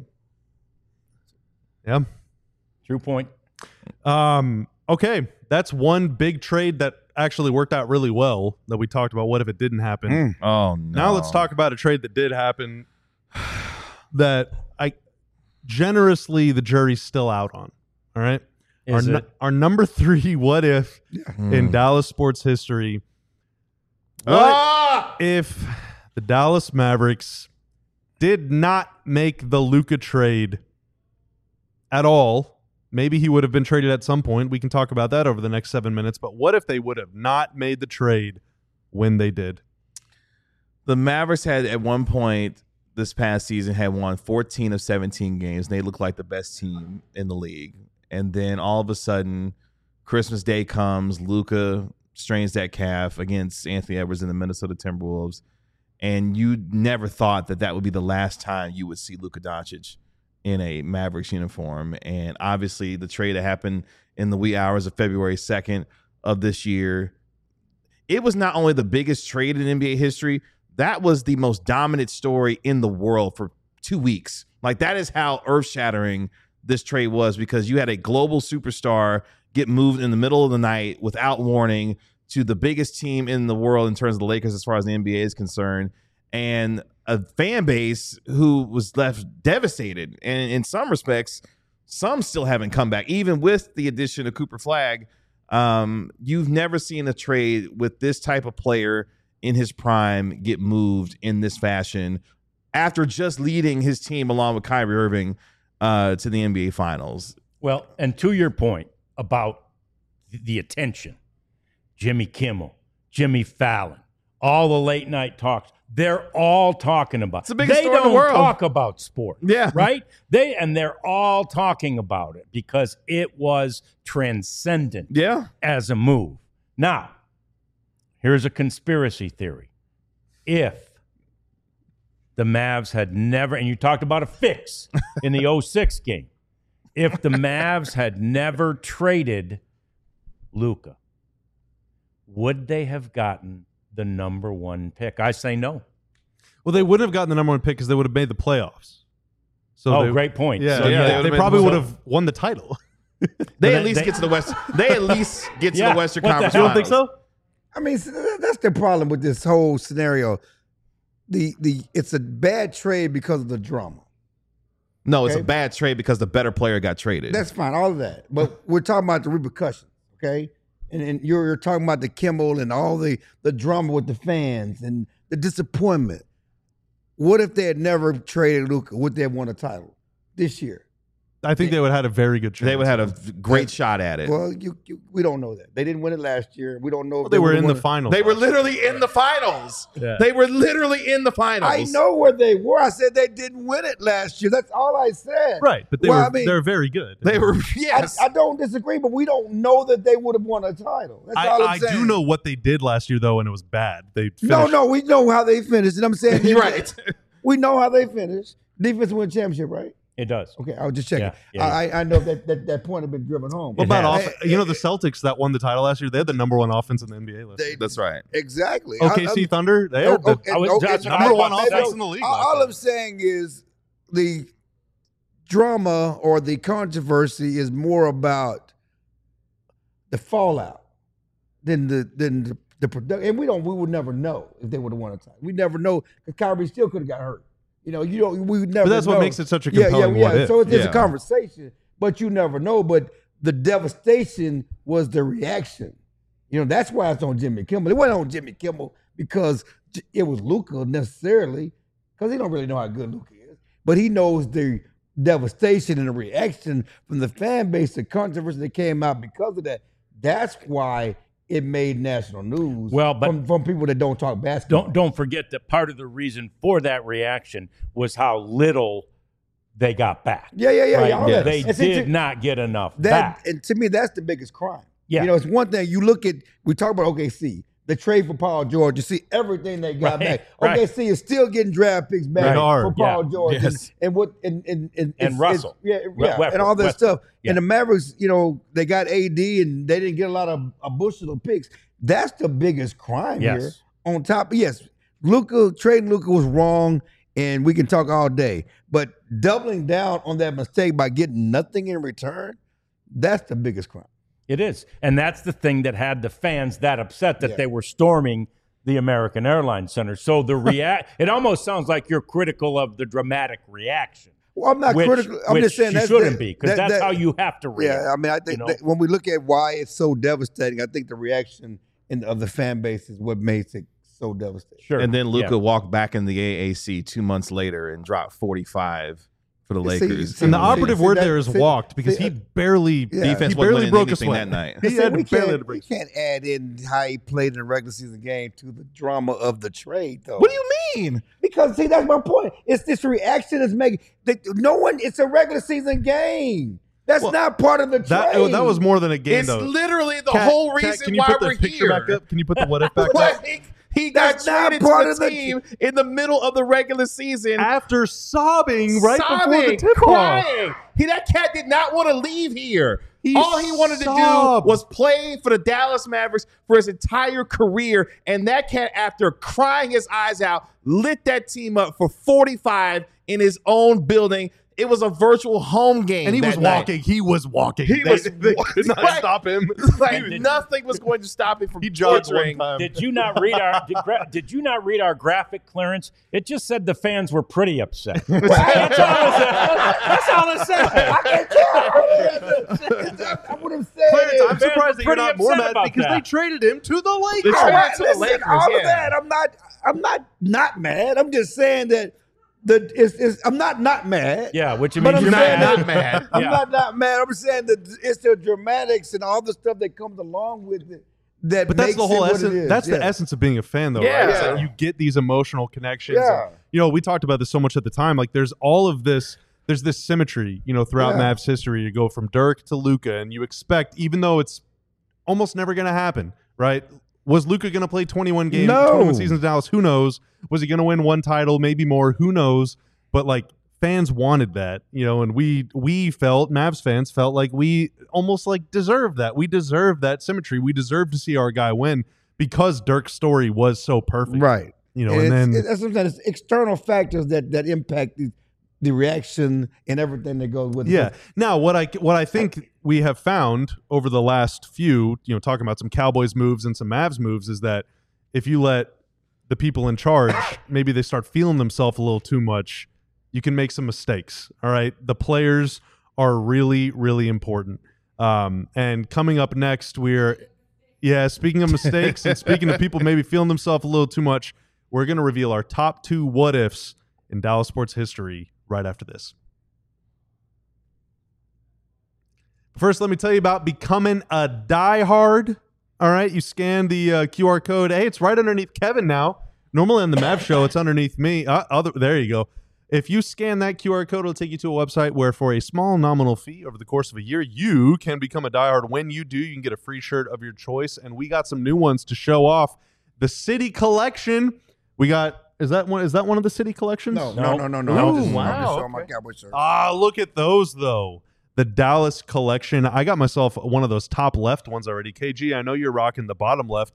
Yeah. True point. Okay, that's one big trade that actually worked out really well that we talked about. What if it didn't happen? Oh, no. Now let's talk about a trade that did happen that generously the jury's still out on. All right? Our number 3 what if in Dallas sports history. What if the Dallas Mavericks did not make the Luka trade at all? Maybe he would have been traded at some point. We can talk about that over the next 7 minutes. But what if they would have not made the trade when they did? The Mavericks had at one point this past season had won 14 of 17 games. And they looked like the best team in the league. And then all of a sudden, Christmas Day comes. Luka strains that calf against Anthony Edwards and the Minnesota Timberwolves. And you never thought that would be the last time you would see Luka Doncic in a Mavericks uniform. And obviously the trade that happened in the wee hours of February 2nd of this year, it was not only the biggest trade in NBA history, that was the most dominant story in the world for 2 weeks. Like, that is how earth-shattering this trade was, because you had a global superstar get moved in the middle of the night without warning to the biggest team in the world in terms of the Lakers as far as the NBA is concerned, and a fan base who was left devastated. And in some respects, some still haven't come back. Even with the addition of Cooper Flagg, you've never seen a trade with this type of player in his prime get moved in this fashion after just leading his team along with Kyrie Irving to the NBA Finals. Well, and to your point about the attention, Jimmy Kimmel, Jimmy Fallon, all the late night talks, They're all talking about. It's the biggest they story in don't the world. talk about sport. Yeah. Right? They're all talking about it because it was transcendent Yeah. as a move. Now, here's a conspiracy theory. If the Mavs had never, and you talked about a fix in the 06 game, if the Mavs had never traded Luka, would they have gotten the number 1 pick? I say no. Well, they wouldn't have gotten the number 1 pick because they would have made the playoffs. So Great point. Yeah, So, they probably would have won the title. They at least get to the West. They at least get to Yeah, the Western what the Conference. hell? You don't think Finals. so? I mean, that's the problem with this whole scenario. It's a bad trade because of the drama. No, it's Okay. a bad trade because the better player got traded. That's fine, all of that. But we're talking about the repercussions, okay? And you're talking about the Kimmel and all the drama with the fans and the disappointment. What if they had never traded Luka? Would they have won a title this year? I think they would have had a very good chance. they would have had a great shot at it. Well, we don't know that. They didn't win it last year. We don't know if They were would've in the won it. finals. They were literally in the finals. Yeah. They were literally in the finals. I know where they were. I said they didn't win it last year. That's all I said. Right, but Well, I mean, they're very good. They were, yes. I don't disagree, but we don't know that they would have won a title. That's all I I'm saying. do know what they did last year, though, and it was bad. They No, finished, we know how they finished. And I'm saying, You're right. We know how they finished. Defense win championship, right? It does. Okay, I was just checking. Yeah. I know that point had been driven home. What about has. the Celtics that won the title last year? They had the number 1 offense in the NBA last year. That's right. Exactly. OKC Thunder, they had the that's number 1 I- offense in the league. last All year. I'm saying is the drama or the controversy is more about the fallout than the production. And we would never know if they would have won a title. We never know because Kyrie still could have got hurt. We would never. But that's what know. makes it such a compelling what if. So it's Yeah. a conversation, but you never know. But the devastation was the reaction. That's why it's on Jimmy Kimmel. It wasn't on Jimmy Kimmel because it was Luka necessarily, because he don't really know how good Luka is. But he knows the devastation and the reaction from the fan base, the controversy that came out because of that. That's why it made national news. Well, but- from people that don't talk basketball. Don't forget that part of the reason for that reaction was how little they got back. Yeah. Right? all that. They And see, did not get enough That back. and to me, that's the biggest crime. Yeah. It's one thing you look at. We talk about OKC, the trade for Paul George. You see everything they got Right, back. right. OKC is still getting draft picks back They are. for Paul Yeah, George yes. and what and it's- Russell. and all that Westbrook. stuff. Yeah. And the Mavericks, they got AD and they didn't get a lot of a bushel of picks. That's the biggest crime Yes. here. On top, yes, trading Luka was wrong, and we can talk all day. But doubling down on that mistake by getting nothing in return, that's the biggest crime. It is. And that's the thing that had the fans that upset that Yeah. they were storming the American Airlines Center. So it almost sounds like you're critical of the dramatic reaction. Well, I'm not which, critical. I'm which just saying you that's shouldn't be, because that's that- how you have to react. Yeah, I mean, I think you know? that when we look at why it's so devastating, I think the reaction of the fan base is what makes it so devastating. Sure. And then Luka Yeah. walked back in the AAC 2 months later and dropped 45 for the See, Lakers. see, And the see, operative see, word that- there is see, walked because see, he barely yeah. Defense he wasn't barely winning broke a anything sweat that night. He had we barely had to can't, break. we can't add in how he played in the regular season game to the drama of the trade, though. What do you mean? Because see, that's my point. It's this reaction that's making that no one. It's a regular season game. That's Well, not part of the trade. That was more than a game, It's though. literally the Kat, whole Kat, reason can you why put the we're picture here. back up? Can you put the what if back up? What? He got That's not traded part to of the the- team in the middle of the regular season. After sobbing right before the sobbing, tip off. crying. That cat did not want to leave here. All he wanted to sobbed. do was play for the Dallas Mavericks for his entire career. And that cat, after crying his eyes out, lit that team up for 45 in his own building. It was a virtual home game. And he was that night. walking. He was walking. He They was could not right. stop him. Like nothing was going to stop him from He jogged torturing. one time. Did you not read did you not read our graphic clearance? It just said the fans were pretty upset. That's all it said. I can't tell. I would have said Clarence, it. I'm surprised that you're pretty not more upset mad about because that. they traded him to the Lakers. They All traded right, to the listen, Lakers, all yeah. of that. I'm not mad. I'm just saying that I'm not mad. Yeah, which But means I'm you're saying mad. not mad. I'm Yeah. not mad. I'm saying that it's the dramatics and all the stuff that comes along with it that But that's makes the whole it what it essence. is. That's the Yeah. essence of being a fan, though, Yeah. right? It's like you get these emotional connections. Yeah. And, you know, we talked about this so much at the time. Like, there's all of this. There's this symmetry, you know, throughout Yeah. Mavs history. You go from Dirk to Luka, and you expect, even though it's almost never going to happen, right? Was Luka going to play 21 games, No. 21 seasons in Dallas? Who knows? Was he going to win one title, maybe more? Who knows? But like, fans wanted that, you know, and we felt, Mavs fans felt like we almost like deserved that. We deserved that symmetry. We deserved to see our guy win because Dirk's story was so perfect, Right. You know, and then that's sometimes it's external factors that impact the reaction and everything that goes with it. yeah. Now, what I think we have found over the last few, you know, talking about some Cowboys moves and some Mavs moves, is that if you let the people in charge, maybe they start feeling themselves a little too much, you can make some mistakes. All right. The players are really, really important. And coming up next, speaking of mistakes and speaking of people maybe feeling themselves a little too much, we're going to reveal our top 2 what ifs in Dallas sports history right after this. First, let me tell you about becoming a diehard. All right, you scan the QR code. Hey, it's right underneath Kevin now. Normally on the Mav show, it's underneath me. There you go. If you scan that QR code, it'll take you to a website where for a small nominal fee over the course of a year, you can become a diehard. When you do, you can get a free shirt of your choice. And we got some new ones to show off. The City Collection. We got, is that one of the City Collections? No. Ooh, wow. okay. My Cowboy shirt. Look at those, though. The Dallas Collection. I got myself one of those top left ones already. KG, I know you're rocking the bottom left.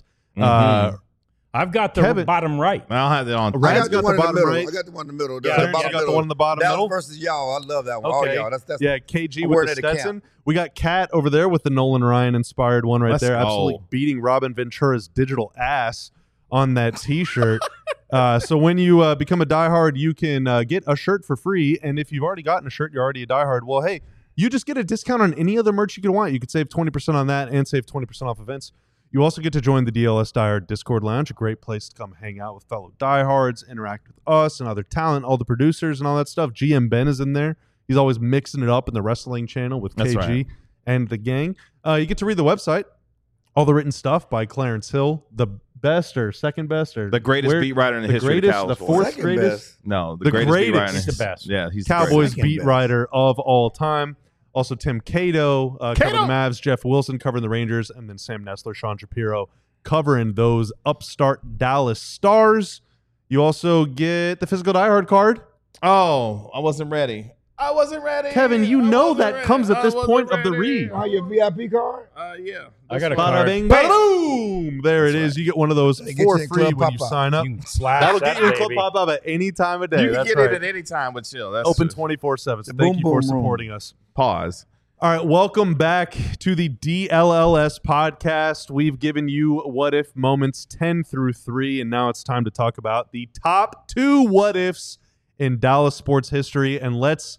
I've got the Kevin. bottom right. I don't have that on. Right. I Rad's got the one in the bottom middle. right. I got the one in the middle. Yeah, The you bottom got the middle. one in the bottom Dallas middle? versus y'all. I love that one. Okay. All y'all. That's Yeah, KG I'm with wearing the it at camp. Stetson. We got Kat over there with the Nolan Ryan inspired one right Let's there. go. Absolutely beating Robin Ventura's digital ass on that T-shirt. So when you become a diehard, you can get a shirt for free. And if you've already gotten a shirt, you're already a diehard. Well, hey, you just get a discount on any other merch you could want. You could save 20% on that and save 20% off events. You also get to join the DLS Diehard Discord Lounge, a great place to come hang out with fellow diehards, interact with us and other talent, all the producers and all that stuff. GM Ben is in there. He's always mixing it up in the wrestling channel with That's KG right. and the gang. You get to read the website, all the written stuff by Clarence Hill, the best or second best or The greatest where- beat writer in the the history greatest, of the Cowboys. fourth Second greatest best. No, the the greatest beat writer. greatest. In He's the best. Yeah, he's Cowboys Second beat best. writer of all time. Also, Tim Cato covering Cato! the Mavs, Jeff Wilson covering the Rangers, and then Sam Nessler, Sean Shapiro covering those upstart Dallas Stars. You also get the physical diehard card. Oh, I wasn't ready. Kevin, you know that comes at this point of the read. Oh, your VIP card? Yeah. I got a Bada card. bing, bada boom. There it is. You get one of those They get for you in free Club when you Pop-Up. sign up. You can slash That'll that get you in Club baby. Pop-Up at any time of day. You can That's get right. it at any time with Chill. That's Open just- 24/7. So The thank boom, you for boom, boom. supporting us. Pause. All right, welcome back to the DLLS podcast. We've given you what if moments 10 through 3, and now it's time to talk about the top 2 what ifs in Dallas sports history. And let's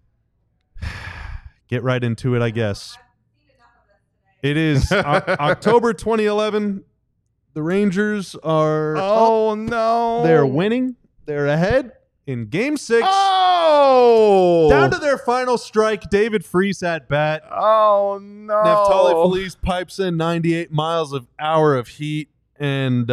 get right into it, I guess. It is October 2011. The Rangers are Oh no. they're winning. They're ahead in Game 6. Oh. Down to their final strike. David Freese at bat. Oh no. Neftali Feliz pipes in 98 miles an hour of heat, and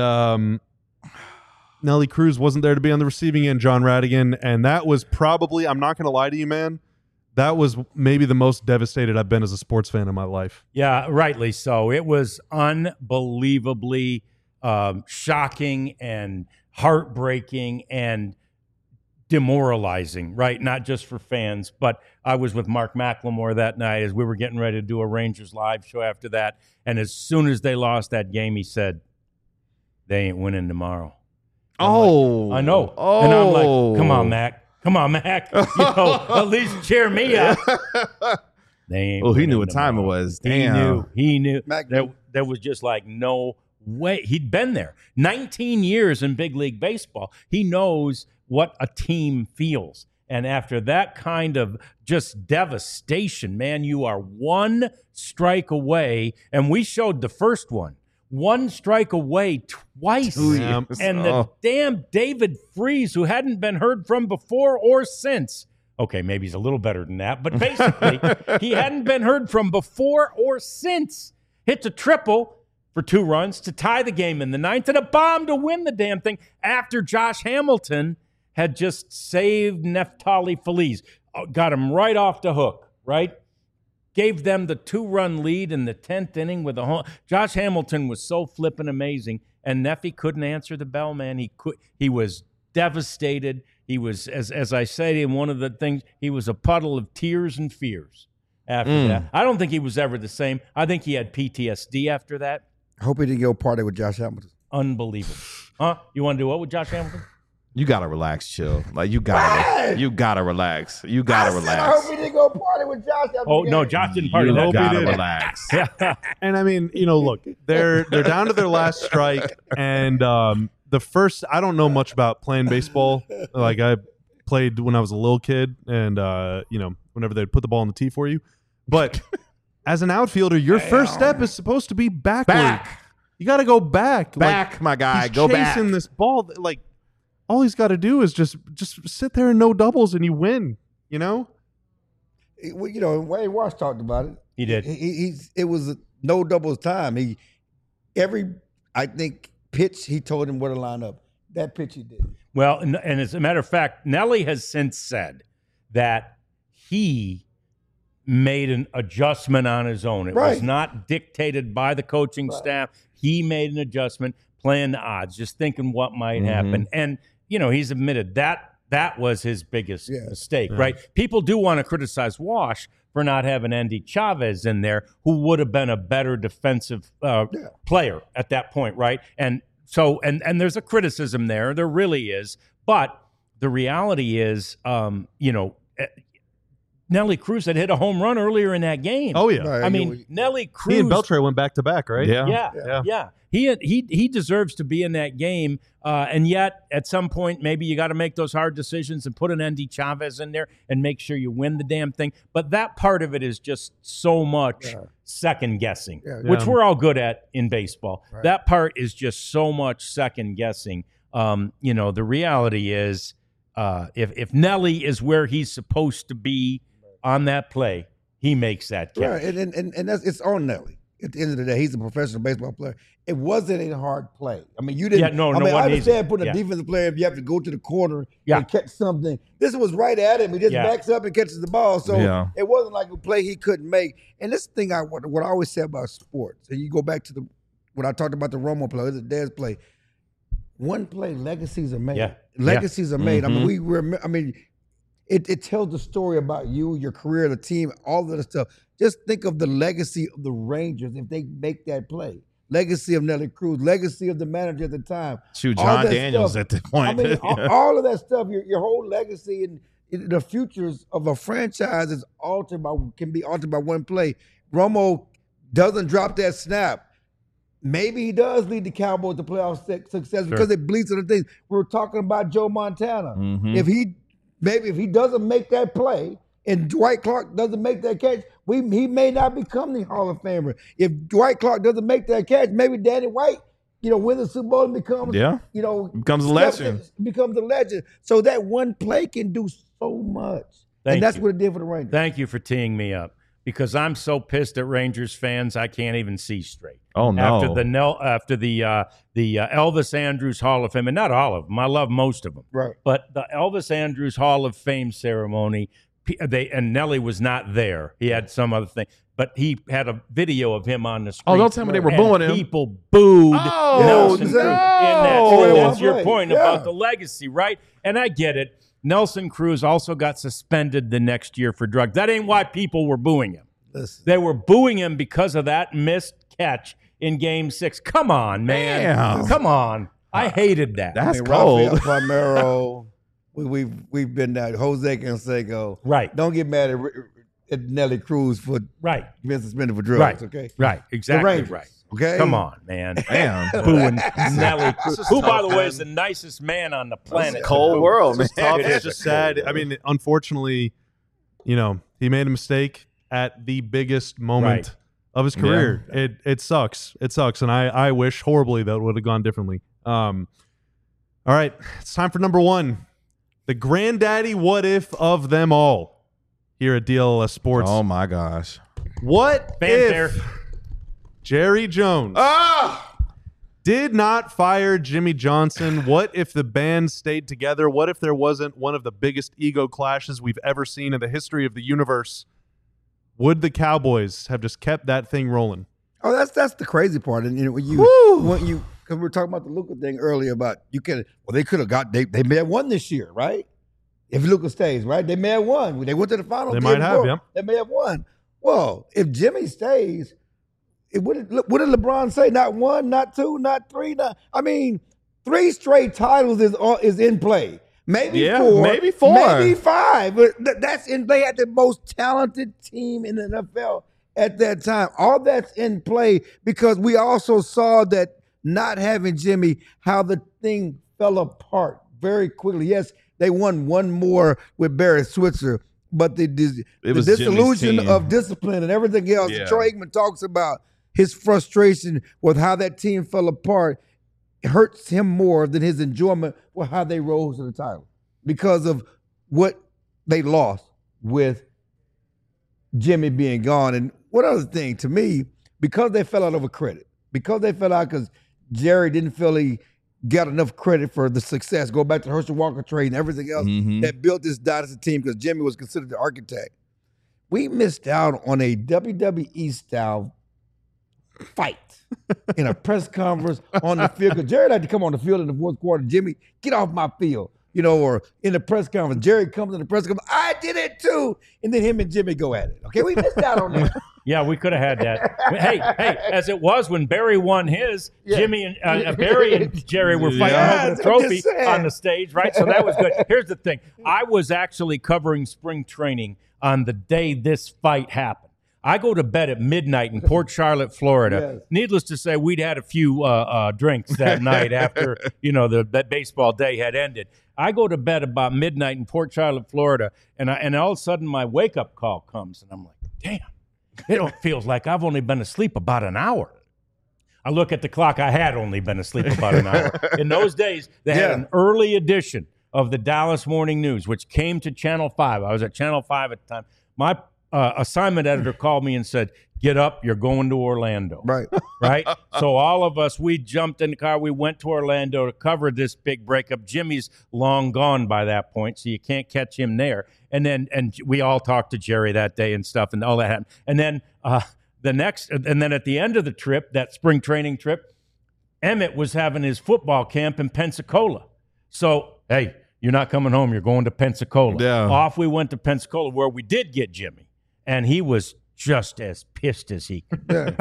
Nelly Cruz wasn't there to be on the receiving end, John Radigan, and that was probably, I'm not going to lie to you, man, that was maybe the most devastated I've been as a sports fan in my life. Yeah, rightly so. It was unbelievably shocking and heartbreaking and demoralizing, right? Not just for fans, but I was with Mark McLemore that night as we were getting ready to do a Rangers live show after that. And as soon as they lost that game, he said, they ain't winning tomorrow. Oh. I know. Oh. And I'm like, come on, Mac. Come on, Mac. You know, at least cheer me up. They ain't Oh, he knew winning what time it tomorrow. was. Damn. He knew. Mac There was just like no way. He'd been there 19 years in big league baseball. He knows what a team feels. And after that kind of just devastation, man, you are one strike away. And we showed the first one strike away twice. Yeah. And the damn David Freese, who hadn't been heard from before or since. Okay, maybe he's a little better than that, but basically, he hadn't been heard from before or since. Hits a triple, for 2 runs to tie the game in the 9th and a bomb to win the damn thing after Josh Hamilton had just saved Neftali Feliz. Got him right off the hook, right? Gave them the 2-run lead in the 10th inning with a home. Josh Hamilton was so flippin' amazing, and Neffy couldn't answer the bell, man. He was devastated. He was, as I said in one of the things, he was a puddle of tears and fears after that. I don't think he was ever the same. I think he had PTSD after that. I hope he didn't go party with Josh Hamilton. Unbelievable. Huh? You want to do what with Josh Hamilton? You gotta relax, chill. Like you gotta relax. You gotta relax. I hope he didn't go party with Josh. Oh no, Josh didn't party. You that gotta day. relax. And I mean, look, they're down to their last strike, and the first. I don't know much about playing baseball. Like I played when I was a little kid, and whenever they'd put the ball on the tee for you, but as an outfielder, your first step is supposed to be backward. Back. You got to go back. Back, my guy. He's Go back. chasing this ball. Like all he's got to do is just sit there and no doubles, and you win. Well, Wayne Walsh talked about it. He did. It was no doubles time. I think pitch he told him where to line up. That pitch he did. Well, and as a matter of fact, Nelly has since said that he made an adjustment on his own. It was not dictated by the coaching staff. He made an adjustment, playing the odds, just thinking what might happen. And, he's admitted that was his biggest mistake, right? People do want to criticize Walsh for not having Andy Chavez in there, who would have been a better defensive player at that point, right? And so, and there's a criticism there. There really is. But the reality is, Nelly Cruz had hit a home run earlier in that game. Oh yeah, Right, I mean, Nelly Cruz. he and Beltre went back to back, right? Yeah. He deserves to be in that game, and yet at some point maybe you got to make those hard decisions and put an Andy Chavez in there and make sure you win the damn thing. But that part of it is just so much second guessing, which we're all good at in baseball. Right. That part is just so much second guessing. The reality is, if Nelly is where he's supposed to be on that play, he makes that catch. Right, and that's it's on Nelly. At the end of the day, he's a professional baseball player. It wasn't a hard play. I mean, you didn't. Yeah, I understand putting a defensive player if you have to go to the corner and catch something. This was right at him. He just backs up and catches the ball. So it wasn't like a play he couldn't make. And this thing, what I always say about sports, and you go back to what I talked about the Romo play, the Dez play. One play, legacies are made. Yeah. Legacies are made. I mean, it tells the story about you, your career, the team, all of that stuff. Just think of the legacy of the Rangers if they make that play. Legacy of Nelly Cruz, legacy of the manager at the time. Shoot, John Daniels at the point. I mean, all of that stuff, your whole legacy and the futures of a franchise can be altered by one play. Romo doesn't drop that snap. Maybe he does lead the Cowboys to playoff success because it bleeds other things. We were talking about Joe Montana. If he doesn't make that play and Dwight Clark doesn't make that catch, he may not become the Hall of Famer. If Dwight Clark doesn't make that catch, maybe Danny White, wins the Super Bowl and becomes, becomes a legend. Becomes a legend. So that one play can do so much. And that's what it did for the Rangers. Thank you for teeing me up, because I'm so pissed at Rangers fans I can't even see straight. Oh no! After the Elvis Andrus Hall of Fame, and not all of them, I love most of them. Right. But the Elvis Andrus Hall of Fame ceremony, and Nelly was not there. He had some other thing, but he had a video of him on the street. Oh, don't tell me they were booing him. People booed Nelson Cruz in that. That's your play. point about the legacy, right? And I get it. Nelson Cruz also got suspended the next year for drugs. That ain't why people were booing him. Listen. They were booing him because of that missed catch in Game 6. Come on, man. Damn. Come on. I hated that. That's cold. Rafael Palmeiro, we've been there. Jose Canseco. Right. Don't get mad at Nelly Cruz for being suspended for drugs. Okay. Right. Exactly Rangers, right. Okay. Come on, man. Damn. Booing Nelly Cruz, who, by the way, is the nicest man on the planet. It's a cold world, man. It's tough. It's just sad. I mean, unfortunately, he made a mistake at the biggest moment of his career. Yeah. It sucks. It sucks, and I wish horribly that it would have gone differently. All right, it's time for number one, the granddaddy what if of them all. Here at DLS Sports. Oh my gosh. Fanfare. Jerry Jones did not fire Jimmy Johnson. What if the band stayed together? What if there wasn't one of the biggest ego clashes we've ever seen in the history of the universe? Would the Cowboys have just kept that thing rolling? Oh, that's the crazy part. And when you because we were talking about the Luka thing earlier about they could have got they may have won this year, right? If Luka stays, right? They may have won. They went to the finals. They might have, yep. They may have won. Well, if Jimmy stays, what did LeBron say? Not one, not two, not three. I mean, 3 straight titles is in play. Maybe 4, maybe 4, maybe 5. But that's in. They had the most talented team in the NFL at that time. All that's in play because we also saw that not having Jimmy, how the thing fell apart very quickly. Yes, they won one more with Barry Switzer, but the disillusion of discipline and everything else. Yeah. Troy Aikman talks about his frustration with how that team fell apart. It hurts him more than his enjoyment with how they rose to the title because of what they lost with Jimmy being gone. And one other thing, to me, because they fell out over credit, because Jerry didn't feel he got enough credit for the success, go back to the Herschel Walker trade and everything else that built this dynasty team because Jimmy was considered the architect. We missed out on a WWE-style fight in a press conference on the field. Because Jerry had to come on the field in the fourth quarter. Jimmy, get off my field. Or in the press conference, Jerry comes in the press conference, I did it too. And then him and Jimmy go at it. Okay, we missed out on that. Yeah, we could have had that. Hey, as it was when Barry won his, Jimmy and Barry and Jerry were fighting over the trophy on the stage, right? So that was good. Here's the thing. I was actually covering spring training on the day this fight happened. I go to bed at midnight in Port Charlotte, Florida. Yes. Needless to say, we'd had a few drinks that night after, that baseball day had ended. I go to bed about midnight in Port Charlotte, Florida, and all of a sudden my wake-up call comes, and I'm like, damn, it feels like I've only been asleep about an hour. I look at the clock. I had only been asleep about an hour. In those days, they had an early edition of the Dallas Morning News, which came to Channel 5. I was at Channel 5 at the time. My assignment editor called me and said, get up, you're going to Orlando. Right? So all of us, we jumped in the car. We went to Orlando to cover this big breakup. Jimmy's long gone by that point, so you can't catch him there. And we all talked to Jerry that day and stuff, and all that happened. And then then at the end of the trip, that spring training trip, Emmett was having his football camp in Pensacola. So, hey, you're not coming home. You're going to Pensacola. Yeah. Off we went to Pensacola, where we did get Jimmy. And he was just as pissed as he could. At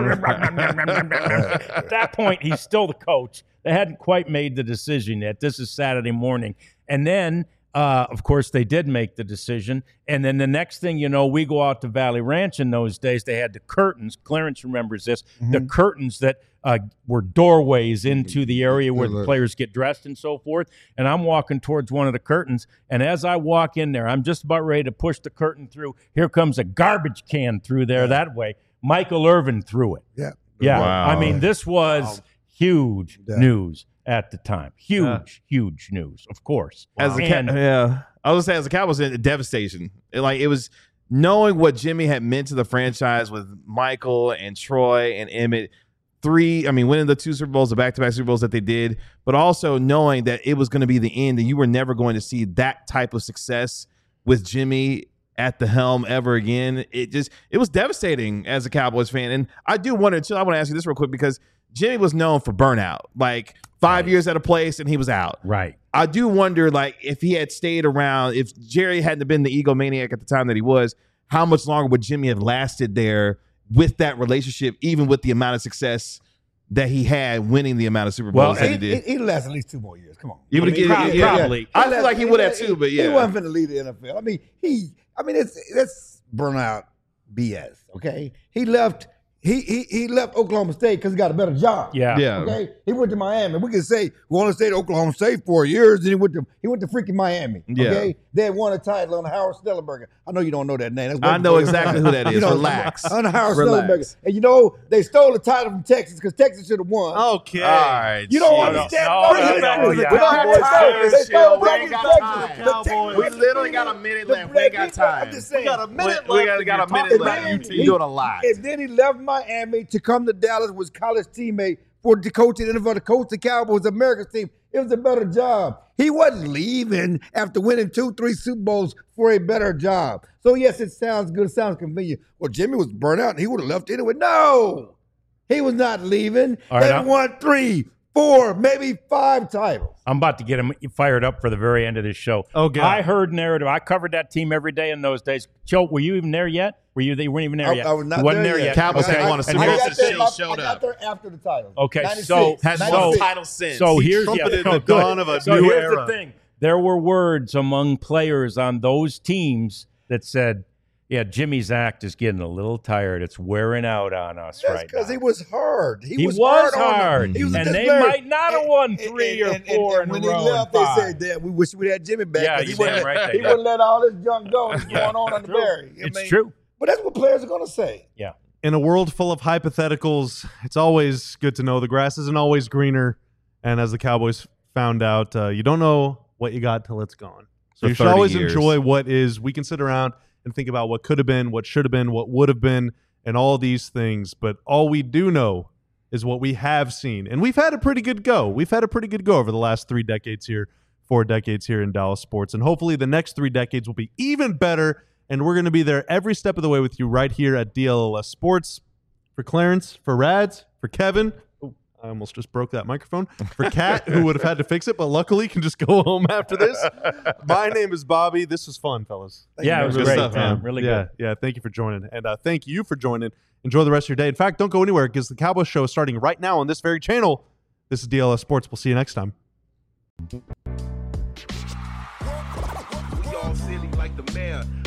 that point, he's still the coach. They hadn't quite made the decision yet. This is Saturday morning. And then, of course, they did make the decision. And then the next thing you know, we go out to Valley Ranch in those days. They had the curtains. Clarence remembers this. The curtains that were doorways into the area where the players get dressed and so forth. And I'm walking towards one of the curtains. And as I walk in there, I'm just about ready to push the curtain through. Here comes a garbage can through there that way. Michael Irvin threw it. Yeah. Wow. I mean, this was huge news at the time. Huge news, of course. I was gonna say, as a Cowboys, devastation. It was knowing what Jimmy had meant to the franchise with Michael and Troy and Emmett. Winning the 2 Super Bowls, the back-to-back Super Bowls that they did, but also knowing that it was going to be the end and you were never going to see that type of success with Jimmy at the helm ever again. It was devastating as a Cowboys fan. And I do wonder, too, I want to ask you this real quick because Jimmy was known for burnout, like 5 years at a place and he was out. Right. I do wonder, if he had stayed around, if Jerry hadn't been the egomaniac at the time that he was, how much longer would Jimmy have lasted there with that relationship, even with the amount of success that he had winning the amount of Super Bowls that he did? He'd last at least 2 more years. Come on. You would have probably. I feel like he would have too, but yeah. He wasn't going to lead the NFL. It's burnout BS, okay? He left He left Oklahoma State because he got a better job. Yeah. Okay. He went to Miami. We can say we only stayed at Oklahoma State 4 years, and he went to freaking Miami. Okay. Yeah. They had won a title on Howard Snellenberger. I know you don't know that name. I know exactly who that is. Relax. On Howard Relax. Snellenberger. And they stole the title from Texas because Texas should have won. Okay. All right. You don't understand. We literally got a minute left. We ain't got time. I'm just saying. We got a minute We left. got a minute left. You're doing a lot. And then he left Miami. Miami to come to Dallas, was college teammate for the coach in the NFL, to coach the Cowboys, America's team. It was a better job. He wasn't leaving after winning 2-3 Super Bowls for a better job. So, yes, it sounds good. It sounds convenient. Well, Jimmy was burnt out and he would have left anyway. No, he was not leaving. All right, They won 3, 4, maybe 5 titles. I'm about to get him fired up for the very end of this show. Oh, God. I heard narrative. I covered that team every day in those days. Joe, were you even there yet? You weren't even there yet. I was not You wasn't there there yet. yet. Cowboys Okay. hadn't won a Super And Bowl here's- since Shea showed I got up. there after the titles. Okay, 96, so Hasn't so- won a title since. So He here's trumpeted the the dawn of a so new here's era. the thing. There were words among players on those teams that said, "Yeah, Jimmy's act is getting a little tired. It's wearing out on us That's right because now." he was hard. He was hard on them. hard. He was a And they disciplinarian. might not have won 3 or 4 in a when row he left, and they 5. said that we wish we had Jimmy back. Yeah, 'cause you he wouldn't damn let- right they He did. wouldn't let all this junk go that's Yeah. going on the True. Barry. It's true. But that's what players are going to say. Yeah. In a world full of hypotheticals, it's always good to know the grass isn't always greener. And as the Cowboys found out, you don't know what you got till it's gone. So For you should 30 always years. enjoy what is. We can sit around and think about what could have been, what should have been, what would have been, and all these things. But all we do know is what we have seen. And we've had a pretty good go. We've had a pretty good go over the last 4 decades here in Dallas sports. And hopefully the next 3 decades will be even better. And we're going to be there every step of the way with you right here at DLLS Sports. For Clarence, for Rads, for Kevin. Oh, I almost just broke that microphone. For Kat, who would have had to fix it, but luckily can just go home after this. My name is Bobby. This was fun, fellas. Yeah, it was Good great, stuff, man. man. Really Yeah, good. yeah. Thank you for joining. And thank you for joining. Enjoy the rest of your day. In fact, don't go anywhere because the Cowboys show is starting right now on this very channel. This is DLS Sports. We'll see you next time. We all silly like the mayor.